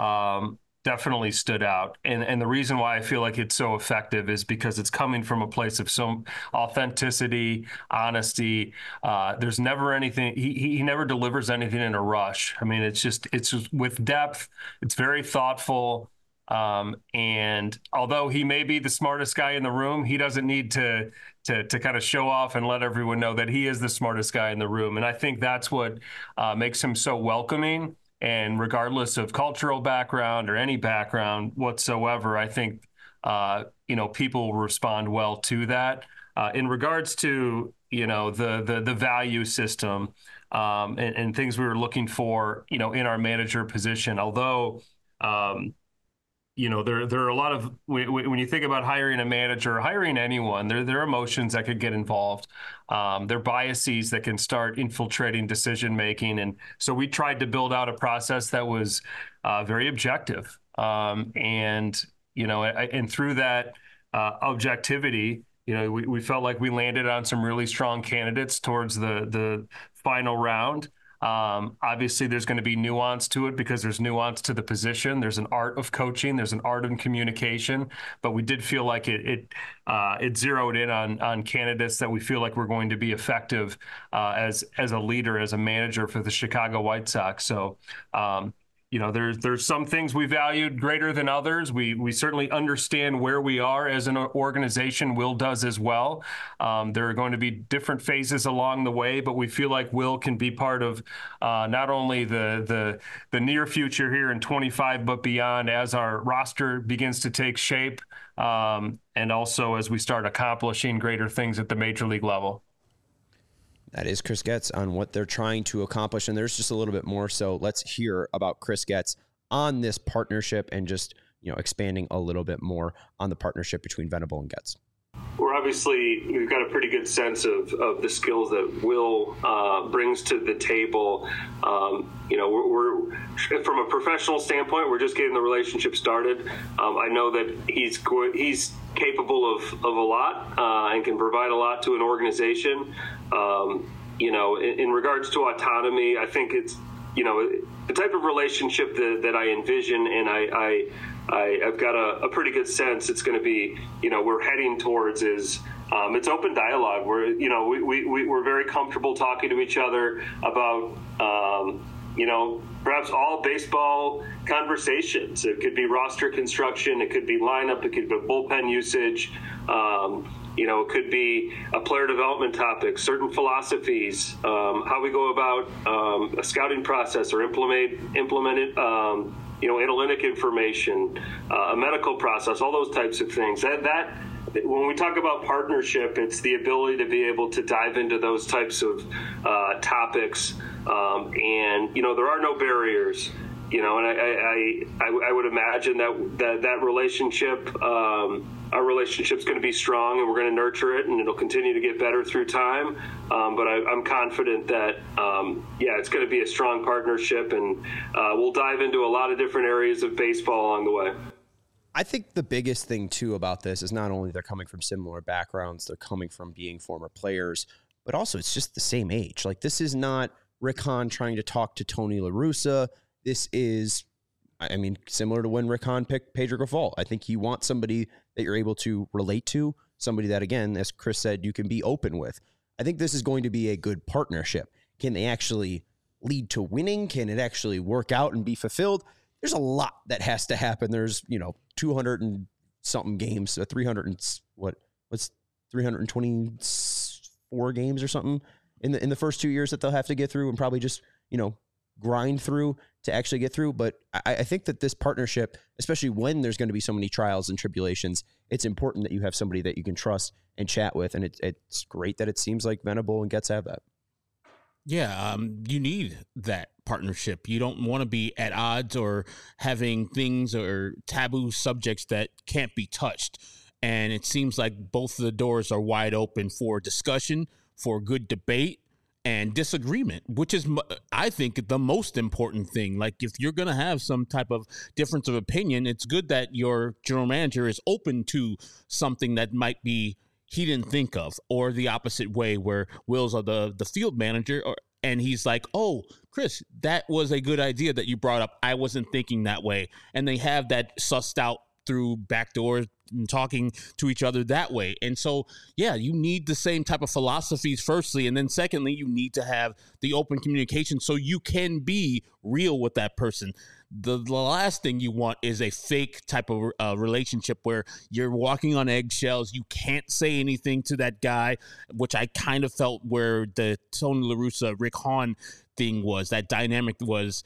um, definitely stood out. And and the reason why I feel like it's so effective is because it's coming from a place of some authenticity, honesty. Uh, there's never anything, he, he never delivers anything in a rush. I mean, it's just, it's just with depth. It's very thoughtful. Um, and although he may be the smartest guy in the room, he doesn't need to, to, to kind of show off and let everyone know that he is the smartest guy in the room. And I think that's what uh, makes him so welcoming. And regardless of cultural background or any background whatsoever, I think, uh, you know, people will respond well to that. Uh, in regards to, you know, the the, the value system um, and, and things we were looking for, you know, in our manager position, although, um, you know, there there are a lot of, when you think about hiring a manager or hiring anyone, there, there are emotions that could get involved. Um, there are biases that can start infiltrating decision-making. And so we tried to build out a process that was uh, very objective. Um, and, you know, and through that uh, objectivity, you know, we, we felt like we landed on some really strong candidates towards the, the final round. Um, obviously, there's going to be nuance to it because there's nuance to the position. There's an art of coaching. There's an art of communication. But we did feel like it it, uh, it zeroed in on on candidates that we feel like we're going to be effective uh, as as a leader, as a manager for the Chicago White Sox. So, um, you know, there's there's some things we valued greater than others. We we certainly understand where we are as an organization. Will does as well. Um, there are going to be different phases along the way, but we feel like Will can be part of uh, not only the the the near future here in twenty-five, but beyond as our roster begins to take shape, um, and also as we start accomplishing greater things at the major league level. That is Chris Getz on what they're trying to accomplish. And there's just a little bit more. So let's hear about Chris Getz on this partnership and just, you know, expanding a little bit more on the partnership between Venable and Getz. We're obviously, we've got a pretty good sense of, of the skills that Will uh, brings to the table. Um, you know, we're, we're, from a professional standpoint, we're just getting the relationship started. Um, I know that he's he's capable of, of a lot uh, and can provide a lot to an organization. Um, you know, in, in regards to autonomy, I think it's, you know, the type of relationship that, that I envision, and I, I I, I've got a, a pretty good sense it's going to be, you know, we're heading towards is um, it's open dialogue. We're, you know, we, we, we're very comfortable talking to each other about, um, you know, perhaps all baseball conversations. It could be roster construction. It could be lineup. It could be bullpen usage. Um, you know, it could be a player development topic, certain philosophies, um, how we go about um, a scouting process or implement, implement it, um, you know, analytic information, uh, a medical process, all those types of things. That, that when we talk about partnership, it's the ability to be able to dive into those types of uh, topics. Um, and, you know, there are no barriers, you know, and I, I, I, I would imagine that that, that relationship, um, our relationship's going to be strong, and we're going to nurture it, and it'll continue to get better through time. Um, but I, I'm confident that, um, yeah, it's going to be a strong partnership, and uh, we'll dive into a lot of different areas of baseball along the way. I think the biggest thing, too, about this is not only they're coming from similar backgrounds, they're coming from being former players, but also it's just the same age. Like, this is not Rick Hahn trying to talk to Tony La Russa. This is, I mean, similar to when Rick Hahn picked Pedro Grifol. I think you want somebody that you're able to relate to, somebody that, again, as Chris said, you can be open with. I think this is going to be a good partnership. Can they actually lead to winning? Can it actually work out and be fulfilled? There's a lot that has to happen. There's, you know, two hundred and something games, uh, three hundred and what, what's three hundred twenty-four games or something in the in the first two years that they'll have to get through and probably just, you know, grind through to actually get through. But I, I think that this partnership, especially when there's going to be so many trials and tribulations, it's important that you have somebody that you can trust and chat with. And it, it's great that it seems like Venable and Getz have that. Yeah, um, you need that partnership. You don't want to be at odds or having things or taboo subjects that can't be touched. And it seems like both of the doors are wide open for discussion, for good debate, and disagreement, which is, I think, the most important thing. Like, if you're going to have some type of difference of opinion, it's good that your general manager is open to something that might be he didn't think of, or the opposite way where Will's the, the field manager, or, and he's like, oh, Chris, that was a good idea that you brought up. I wasn't thinking that way. And they have that sussed out through back doors and talking to each other that way. And so, yeah, you need the same type of philosophies, firstly. And then secondly, you need to have the open communication so you can be real with that person. The, the last thing you want is a fake type of uh, relationship where you're walking on eggshells. You can't say anything to that guy, which I kind of felt where the Tony La Russa, Rick Hahn thing was. That dynamic was,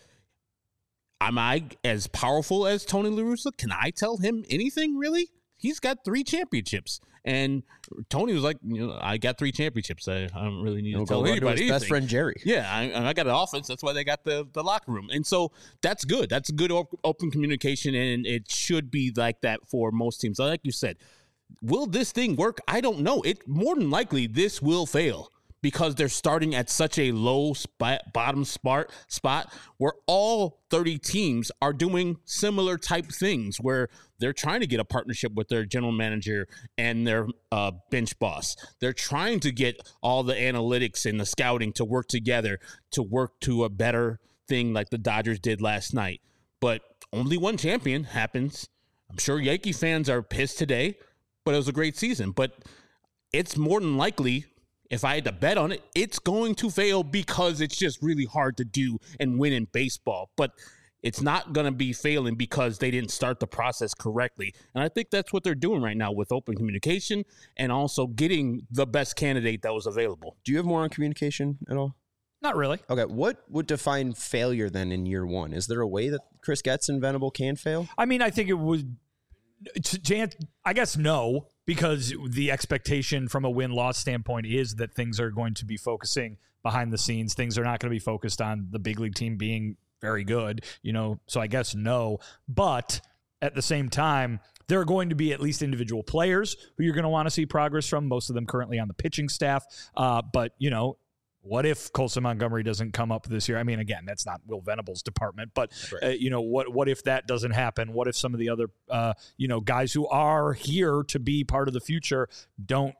am I as powerful as Tony La Russa? Can I tell him anything, really? He's got three championships. And Tony was like, you know, I got three championships. I, I don't really need to tell anybody anything. Best friend Jerry. Yeah, I, I got an offense. That's why they got the, the locker room. And so that's good. That's good op- open communication, and it should be like that for most teams. Like you said, will this thing work? I don't know. It more than likely this will fail, because they're starting at such a low spot, bottom spot, spot where all thirty teams are doing similar type things, where they're trying to get a partnership with their general manager and their uh, bench boss. They're trying to get all the analytics and the scouting to work together to work to a better thing like the Dodgers did last night. But only one champion happens. I'm sure Yankee fans are pissed today, but it was a great season. But it's more than likely, if I had to bet on it, it's going to fail because it's just really hard to do and win in baseball. But It's not going to be failing because they didn't start the process correctly. And I think that's what they're doing right now with open communication and also getting the best candidate that was available. Do you have more on communication at all? Not really. Okay. What would define failure then in year one? Is there a way that Chris Getz and Venable can fail? I mean, I think it would, I guess no, because the expectation from a win-loss standpoint is that things are going to be focusing behind the scenes. Things are not going to be focused on the big league team being very good, you know, so I guess no. But at the same time, there are going to be at least individual players who you're going to want to see progress from, most of them currently on the pitching staff. Uh, but, you know, what if Colson Montgomery doesn't come up this year? I mean, again, that's not Will Venable's department, but, right. uh, you know, what what if that doesn't happen? What if some of the other, uh, you know, guys who are here to be part of the future don't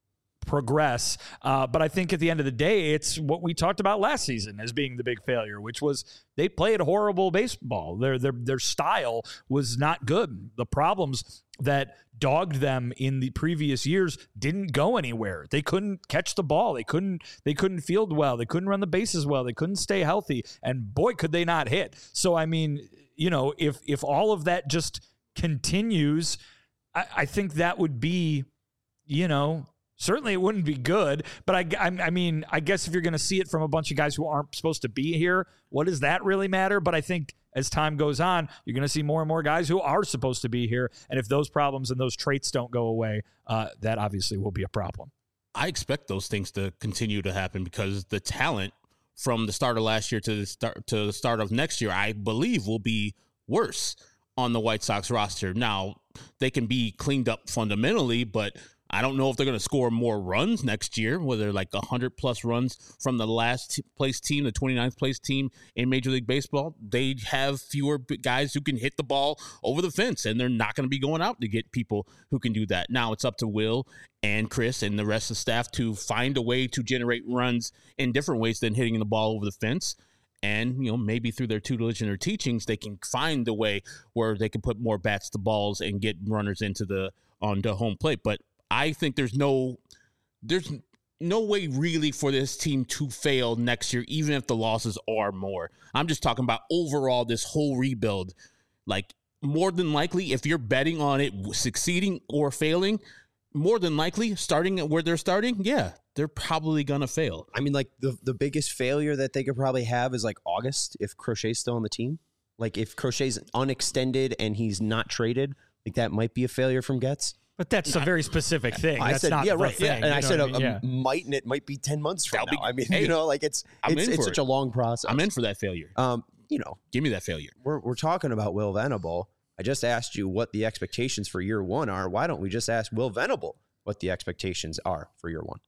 progress? Uh, but I think at the end of the day, it's what we talked about last season as being the big failure, which was they played horrible baseball. Their their their style was not good. The problems that dogged them in the previous years didn't go anywhere. They couldn't catch the ball. They couldn't they couldn't field well. They couldn't run the bases well. They couldn't stay healthy. And boy, could they not hit. So I mean, you know, if if all of that just continues, I, I think that would be, you know, certainly it wouldn't be good, but I, I, I mean, I guess if you're going to see it from a bunch of guys who aren't supposed to be here, what does that really matter? But I think as time goes on, you're going to see more and more guys who are supposed to be here. And if those problems and those traits don't go away, uh, that obviously will be a problem. I expect those things to continue to happen because the talent from the start of last year to the start to the start of next year, I believe, will be worse on the White Sox roster. Now, they can be cleaned up fundamentally, but I don't know if they're going to score more runs next year, whether like one hundred plus runs from the last place team, the twenty-ninth place team in Major League Baseball. They have fewer guys who can hit the ball over the fence, and they're not going to be going out to get people who can do that. Now it's up to Will and Chris and the rest of the staff to find a way to generate runs in different ways than hitting the ball over the fence. And, you know, maybe through their tutelage and their teachings, they can find a way where they can put more bats to balls and get runners into the on the home plate. But I think there's no there's no way really for this team to fail next year, even if the losses are more. I'm just talking about overall this whole rebuild. Like, more than likely, if you're betting on it succeeding or failing, more than likely, starting at where they're starting, yeah, they're probably going to fail. I mean, like, the, the biggest failure that they could probably have is, like, August, if Crochet's still on the team. Like, if Crochet's unextended and he's not traded, like, that might be a failure from Getz. But that's a very specific thing. I That's said, not yeah, the right. thing. Yeah. And you I said, I a, mean? a yeah. might, and it might be ten months from That'll now. be, I mean, hey, you know, like it's I'm it's, in it's for such it. a long process. I'm in for that failure. Um, you know, Give me that failure. we're we're talking about Will Venable. I just asked you what the expectations for year one are. Why don't we just ask Will Venable what the expectations are for year one?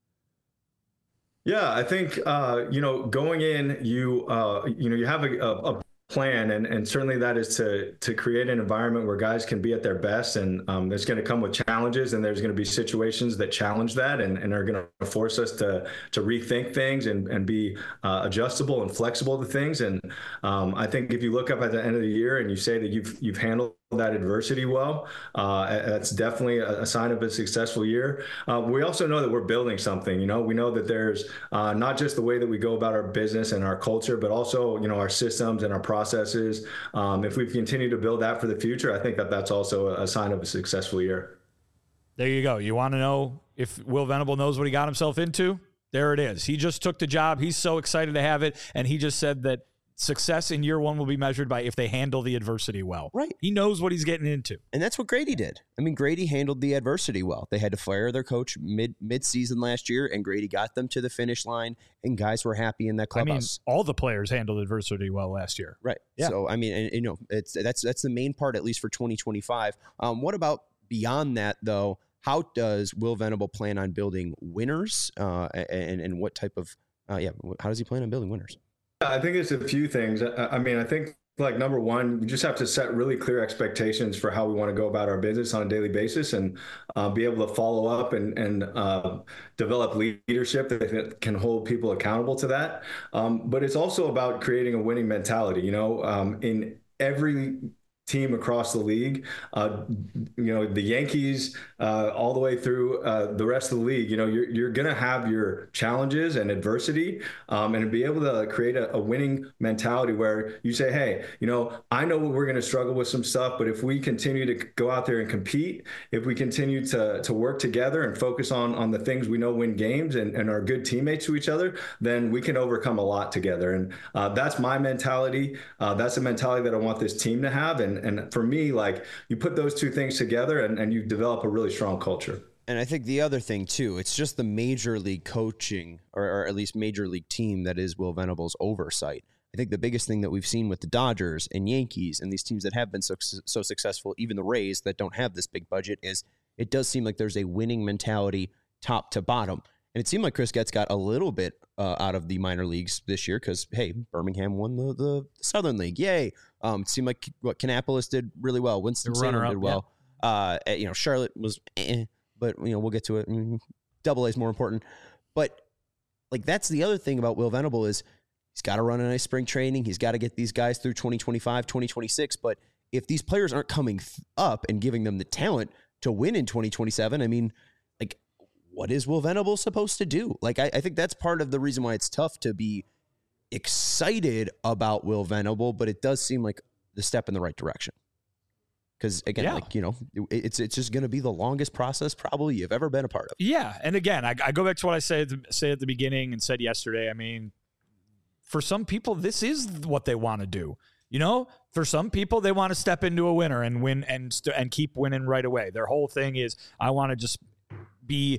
Yeah, I think uh, you know, going in, you uh, you know, you have a, a, a plan, and and certainly that is to to create an environment where guys can be at their best, and um, there's going to come with challenges, and there's going to be situations that challenge that, and, and are going to force us to to rethink things and and be uh, adjustable and flexible to things. And um, I think if you look up at the end of the year and you say that you've you've handled that adversity well, uh, that's definitely a, a sign of a successful year. Uh, we also know that we're building something. You know, we know that there's uh, not just the way that we go about our business and our culture, but also, you know, our systems and our processes. Um, if we continue to build that for the future, I think that that's also a sign of a successful year. There you go. You want to know if Will Venable knows what he got himself into? There it is. He just took the job. He's so excited to have it. And he just said that success in year one will be measured by if they handle the adversity well. Right. He knows what he's getting into. And that's what Grady did. I mean, Grady handled the adversity well. They had to fire their coach mid mid-season last year, and Grady got them to the finish line, and guys were happy in that clubhouse. I mean, all the players handled adversity well last year. Right. Yeah. So, I mean, and, you know, it's that's that's the main part, at least for twenty twenty-five. Um, what about beyond that, though? How does Will Venable plan on building winners, uh, and, and what type of, uh, yeah, how does he plan on building winners? I think it's a few things. I mean, I think like number one, we just have to set really clear expectations for how we want to go about our business on a daily basis, and uh, be able to follow up and, and uh, develop leadership that can hold people accountable to that. Um, but it's also about creating a winning mentality. You know, um, in every team across the league. Uh, you know, the Yankees, uh, all the way through uh, the rest of the league, you know, you're, you're going to have your challenges and adversity, um, and be able to create a, a winning mentality where you say, hey, you know, I know we're going to struggle with some stuff, but if we continue to go out there and compete, if we continue to, to work together and focus on, on the things we know win games and, and are good teammates to each other, then we can overcome a lot together. And uh, that's my mentality. Uh, that's the mentality that I want this team to have. And And for me, like, you put those two things together and, and you develop a really strong culture. And I think the other thing, too, it's just the major league coaching, or, or at least major league team that is Will Venable's oversight. I think the biggest thing that we've seen with the Dodgers and Yankees and these teams that have been so, so successful, even the Rays that don't have this big budget, is it does seem like there's a winning mentality top to bottom. And it seemed like Chris Getz got a little bit uh, out of the minor leagues this year because, hey, Birmingham won the, the Southern League. Yay. Um, it seemed like what Kannapolis did really well. Winston-Salem did well. Yeah. Uh, you know, Charlotte was eh, but, you know, we'll get to it. Double A is more important. But, like, that's the other thing about Will Venable is he's got to run a nice spring training. He's got to get these guys through twenty twenty-five, twenty twenty-six. But if these players aren't coming up and giving them the talent to win in twenty twenty-seven, I mean, like, what is Will Venable supposed to do? Like, I, I think that's part of the reason why it's tough to be excited about Will Venable, but it does seem like the step in the right direction. Because, again, yeah. like, you know, it, it's it's just going to be the longest process probably you've ever been a part of. Yeah. And again, I, I go back to what I say, say at the beginning and said yesterday. I mean, for some people, this is what they want to do. You know, for some people, they want to step into a winner and win and st- and keep winning right away. Their whole thing is, I want to just be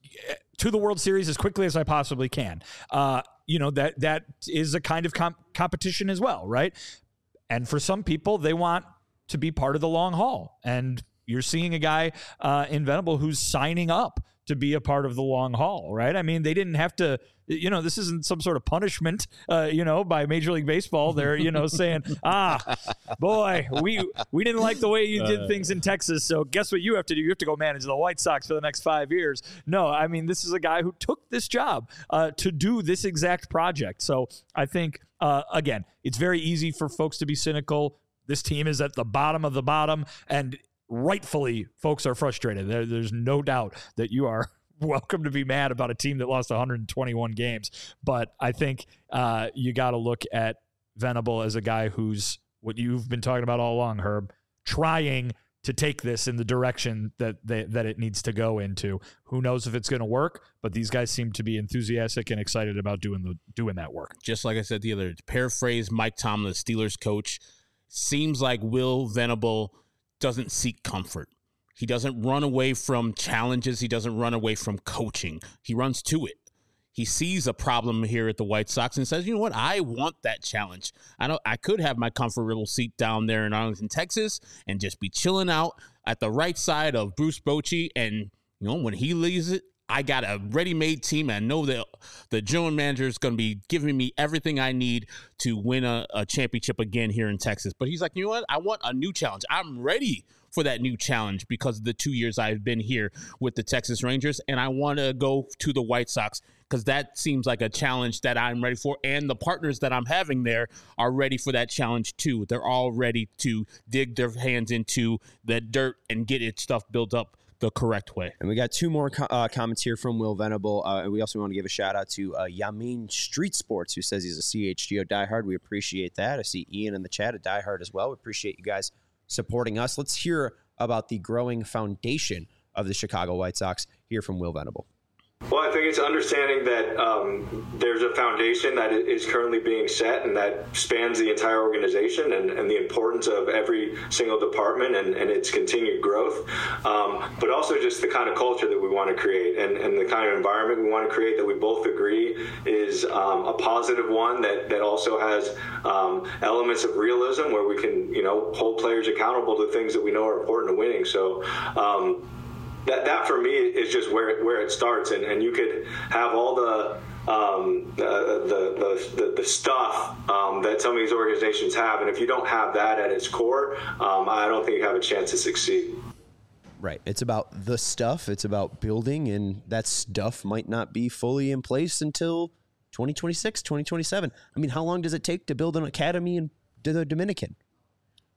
to the World Series as quickly as I possibly can. Uh, you know, that that is a kind of comp- competition as well, right? And for some people, they want to be part of the long haul. And you're seeing a guy uh, in Venable who's signing up to be a part of the long haul, right? I mean, they didn't have to, you know, this isn't some sort of punishment, uh, you know, by Major League Baseball. They're, you know, saying, ah, boy, we we didn't like the way you did things in Texas, so guess what you have to do? You have to go manage the White Sox for the next five years. No, I mean, this is a guy who took this job uh, to do this exact project. So I think, uh, again, it's very easy for folks to be cynical. This team is at the bottom of the bottom, and rightfully, folks are frustrated. There, there's no doubt that you are welcome to be mad about a team that lost one hundred twenty-one games. But I think uh, you got to look at Venable as a guy who's what you've been talking about all along, Herb, trying to take this in the direction that they, that it needs to go into. Who knows if it's going to work? But these guys seem to be enthusiastic and excited about doing the doing that work. Just like I said the other, to paraphrase Mike Tomlin, the Steelers coach, seems like Will Venable doesn't seek comfort. He doesn't run away from challenges. He doesn't run away from coaching. He runs to it. He sees a problem here at the White Sox and says, you know what? I want that challenge. I don't, I could have my comfort little seat down there in Arlington, Texas, and just be chilling out at the right side of Bruce Bochy. And, you know, when he leaves it, I got a ready-made team. And I know that the general manager is going to be giving me everything I need to win a, a championship again here in Texas. But he's like, you know what? I want a new challenge. I'm ready for that new challenge because of the two years I've been here with the Texas Rangers. And I want to go to the White Sox because that seems like a challenge that I'm ready for. And the partners that I'm having there are ready for that challenge too. They're all ready to dig their hands into the dirt and get its stuff built up the correct way. And we got two more co- uh, comments here from Will Venable. Uh, and we also want to give a shout out to uh, Yamin Street Sports, who says he's a C H G O diehard. We appreciate that. I see Ian in the chat, a diehard as well. We appreciate you guys supporting us. Let's hear about the growing foundation of the Chicago White Sox. Hear from Will Venable. Well, I think it's understanding that um, there's a foundation that is currently being set and that spans the entire organization and, and the importance of every single department and, and its continued growth, um, but also just the kind of culture that we want to create and, and the kind of environment we want to create that we both agree is um, a positive one that, that also has um, elements of realism where we can, you know, hold players accountable to things that we know are important to winning. So, um, That, that for me is just where it, where it starts, and, and you could have all the um, the, the the the stuff um, that some of these organizations have, and if you don't have that at its core, um, I don't think you have a chance to succeed. Right. It's about the stuff. It's about building, and that stuff might not be fully in place until twenty twenty-six, twenty twenty-seven. I mean, how long does it take to build an academy in the Dominican?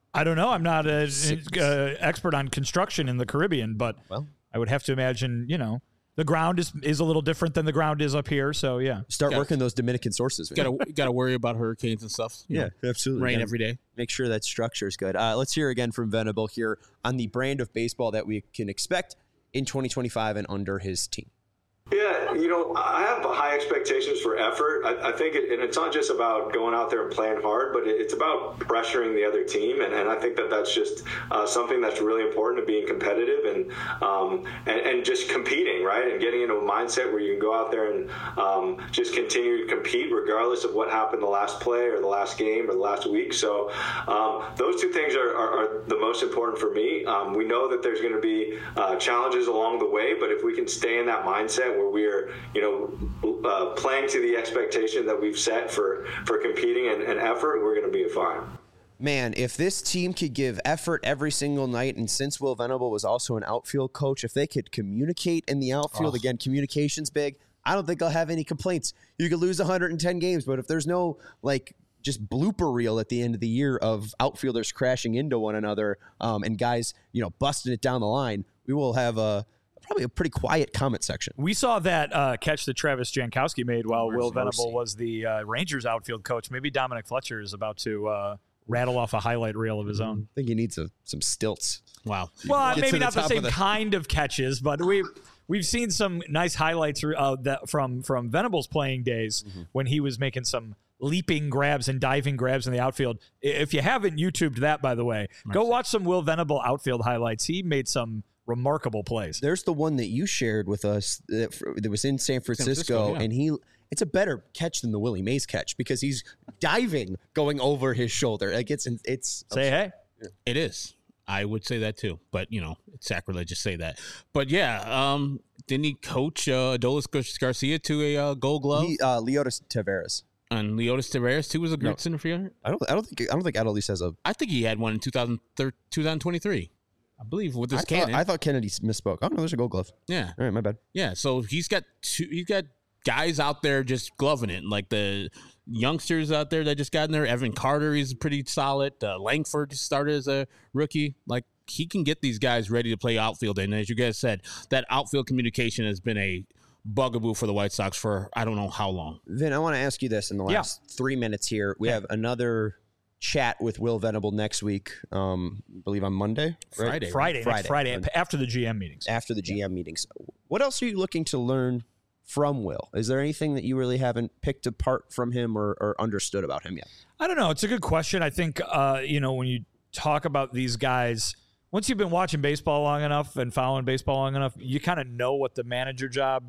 I don't know. I'm not an uh, expert on construction in the Caribbean, but well, I would have to imagine, you know, the ground is is a little different than the ground is up here. So, yeah. Start Gotta- working those Dominican sources. Got to got to worry about hurricanes and stuff. you Yeah, know, absolutely. rain Gotta every day. Make sure that structure is good. Uh, let's hear again from Venable here on the brand of baseball that we can expect in twenty twenty-five and under his team. Yeah, you know, I have high expectations for effort. I, I think, it, and it's not just about going out there and playing hard, but it, it's about pressuring the other team, and, and I think that that's just uh, something that's really important to being competitive and, um, and and just competing, right, and getting into a mindset where you can go out there and um, just continue to compete regardless of what happened the last play or the last game or the last week. So um, those two things are, are, are the most important for me. Um, we know that there's going to be uh, challenges along the way, but if we can stay in that mindset where we're, you know, uh, playing to the expectation that we've set for, for competing and, and effort, we're going to be fine. Man, if this team could give effort every single night, and since Will Venable was also an outfield coach, if they could communicate in the outfield, oh. again, communication's big, I don't think I'll have any complaints. You could lose one hundred ten games, but if there's no, like, just blooper reel at the end of the year of outfielders crashing into one another um, and guys, you know, busting it down the line, we will have a probably a pretty quiet comment section. We saw that uh, catch that Travis Jankowski made while Mercy, Will Venable Mercy. was the uh, Rangers outfield coach. Maybe Dominic Fletcher is about to uh, rattle off a highlight reel of his own. I think he needs a, some stilts. Wow. Well, Get maybe the not the same the- kind of catches, but we we've seen some nice highlights uh, that from from Venable's playing days mm-hmm. when he was making some leaping grabs and diving grabs in the outfield. If you haven't YouTubed that, by the way, Mercy. go watch some Will Venable outfield highlights. He made some remarkable plays. There's the one that you shared with us that, that was in San Francisco, San Francisco yeah. and he it's a better catch than the Willie Mays catch because he's diving going over his shoulder. Like it's it's say hey. It is. I would say that too, but you know, it's sacrilegious to say that. But yeah, um, didn't he coach uh, Adolis Garcia to a uh, Gold Glove? He, uh, Leotis Taveras. And Leotis Taveras too was a great no, center fielder. I don't. I don't think. I don't think Adolis has a. I think he had one in two thousand twenty-three. I believe with this I cannon. Thought, I thought Kennedy misspoke. Oh no, there's a Gold Glove. Yeah. All right, my bad. Yeah. So he's got two. He's got guys out there just gloving it, like the youngsters out there that just got in there. Evan Carter, he's pretty solid. Uh, Langford started as a rookie. Like he can get these guys ready to play outfield. And as you guys said, that outfield communication has been a bugaboo for the White Sox for I don't know how long. Vin, I want to ask you this in the last yeah. three minutes here. We yeah. have another chat with Will Venable next week. Um, I believe on Monday, right? Friday, Friday, Friday, Friday, Friday after the G M meetings. After the G M yeah. meetings, what else are you looking to learn from Will? Is there anything that you really haven't picked apart from him or, or understood about him yet? I don't know. It's a good question. I think uh, you know when you talk about these guys. Once you've been watching baseball long enough and following baseball long enough, you kind of know what the manager job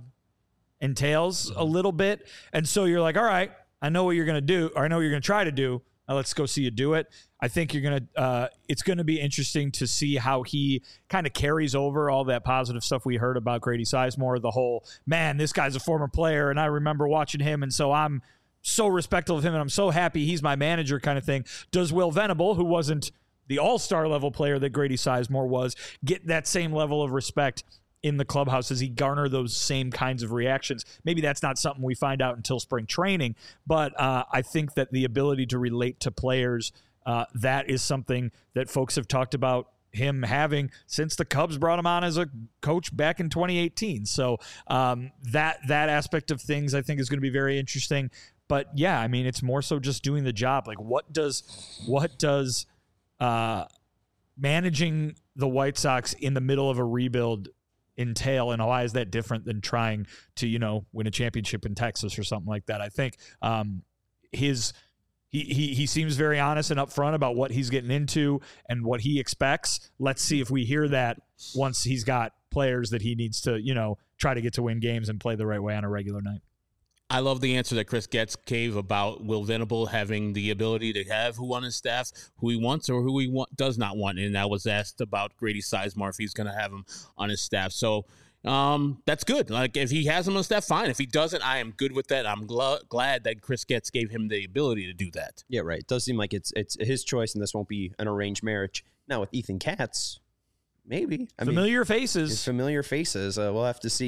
entails a little bit. And so you're like, all right, I know what you're going to do, or I know what you're going to try to do. Now let's go see you do it. I think you're going to, uh, it's going to be interesting to see how he kind of carries over all that positive stuff we heard about Grady Sizemore, the whole, man, this guy's a former player and I remember watching him. And so I'm so respectful of him and I'm so happy he's my manager kind of thing. Does Will Venable, who wasn't the all-star level player that Grady Sizemore was, get that same level of respect in the clubhouse? Does he garner those same kinds of reactions? Maybe that's not something we find out until spring training, but uh, I think that the ability to relate to players, uh, that is something that folks have talked about him having since the Cubs brought him on as a coach back in twenty eighteen. So um, that that aspect of things I think is going to be very interesting. But yeah, I mean, it's more so just doing the job. Like what does what does uh, managing the White Sox in the middle of a rebuild entail, and why is that different than trying to, you know, win a championship in Texas or something like that? I think um, his he, he he seems very honest and upfront about what he's getting into and what he expects. Let's see if we hear that once he's got players that he needs to, you know, try to get to win games and play the right way on a regular night. I love the answer that Chris Getz gave about Will Venable having the ability to have who on his staff, who he wants or who he want, does not want. And I was asked about Grady Sizemore if he's going to have him on his staff. So um, that's good. Like if he has him on his staff, fine. If he doesn't, I am good with that. I'm gl- glad that Chris Getz gave him the ability to do that. Yeah, right. It does seem like it's it's his choice, and this won't be an arranged marriage. Now with Ethan Katz, maybe. I familiar mean, faces. Familiar faces. Uh, we'll have to see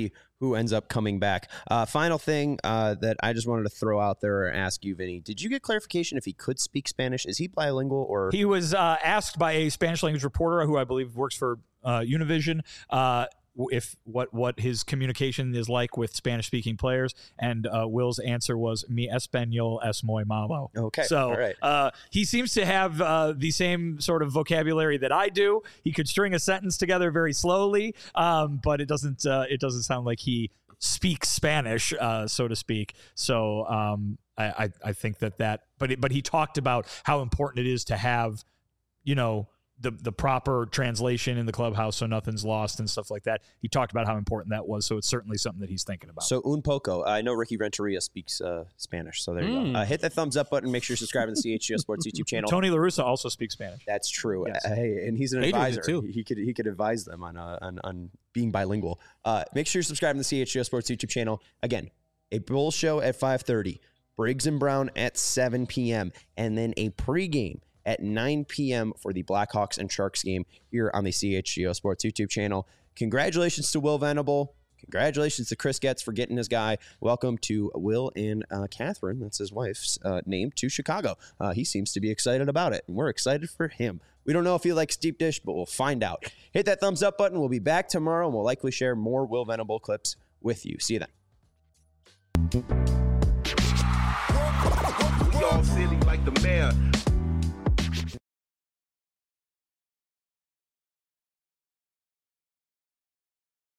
who ends up coming back. Uh, final thing uh, that I just wanted to throw out there or ask you, Vinny, did you get clarification if he could speak Spanish? Is he bilingual or? He was uh, asked by a Spanish language reporter who I believe works for uh, Univision uh, if what what his communication is like with Spanish speaking players, and uh, Will's answer was "Mi español es muy malo." Okay, so all right. uh, he seems to have uh, the same sort of vocabulary that I do. He could string a sentence together very slowly, um, but it doesn't uh, it doesn't sound like he speaks Spanish, uh, so to speak. So um, I, I I think that that, but it, but he talked about how important it is to have, you know, the the proper translation in the clubhouse so nothing's lost and stuff like that. He talked about how important that was, so it's certainly something that he's thinking about. So un poco. I know Ricky Renteria speaks uh, Spanish, so there you mm. go. Uh, hit that thumbs up button. Make sure you subscribe to the C H G O Sports YouTube channel. Tony La Russa also speaks Spanish. That's true. Yes. Uh, hey, and he's an Adrian advisor. too. He could he could advise them on uh, on, on being bilingual. Uh, make sure you subscribe to the C H G O Sports YouTube channel. Again, a Bull show at five thirty, Briggs and Brown at seven p.m., and then a pregame at nine p.m. for the Blackhawks and Sharks game here on the C H G O Sports YouTube channel. Congratulations to Will Venable. Congratulations to Chris Getz for getting his guy. Welcome to Will and uh, Catherine, that's his wife's uh, name, to Chicago. Uh, he seems to be excited about it, and we're excited for him. We don't know if he likes deep dish, but we'll find out. Hit that thumbs up button. We'll be back tomorrow, and we'll likely share more Will Venable clips with you. See you then. We all silly like the mayor.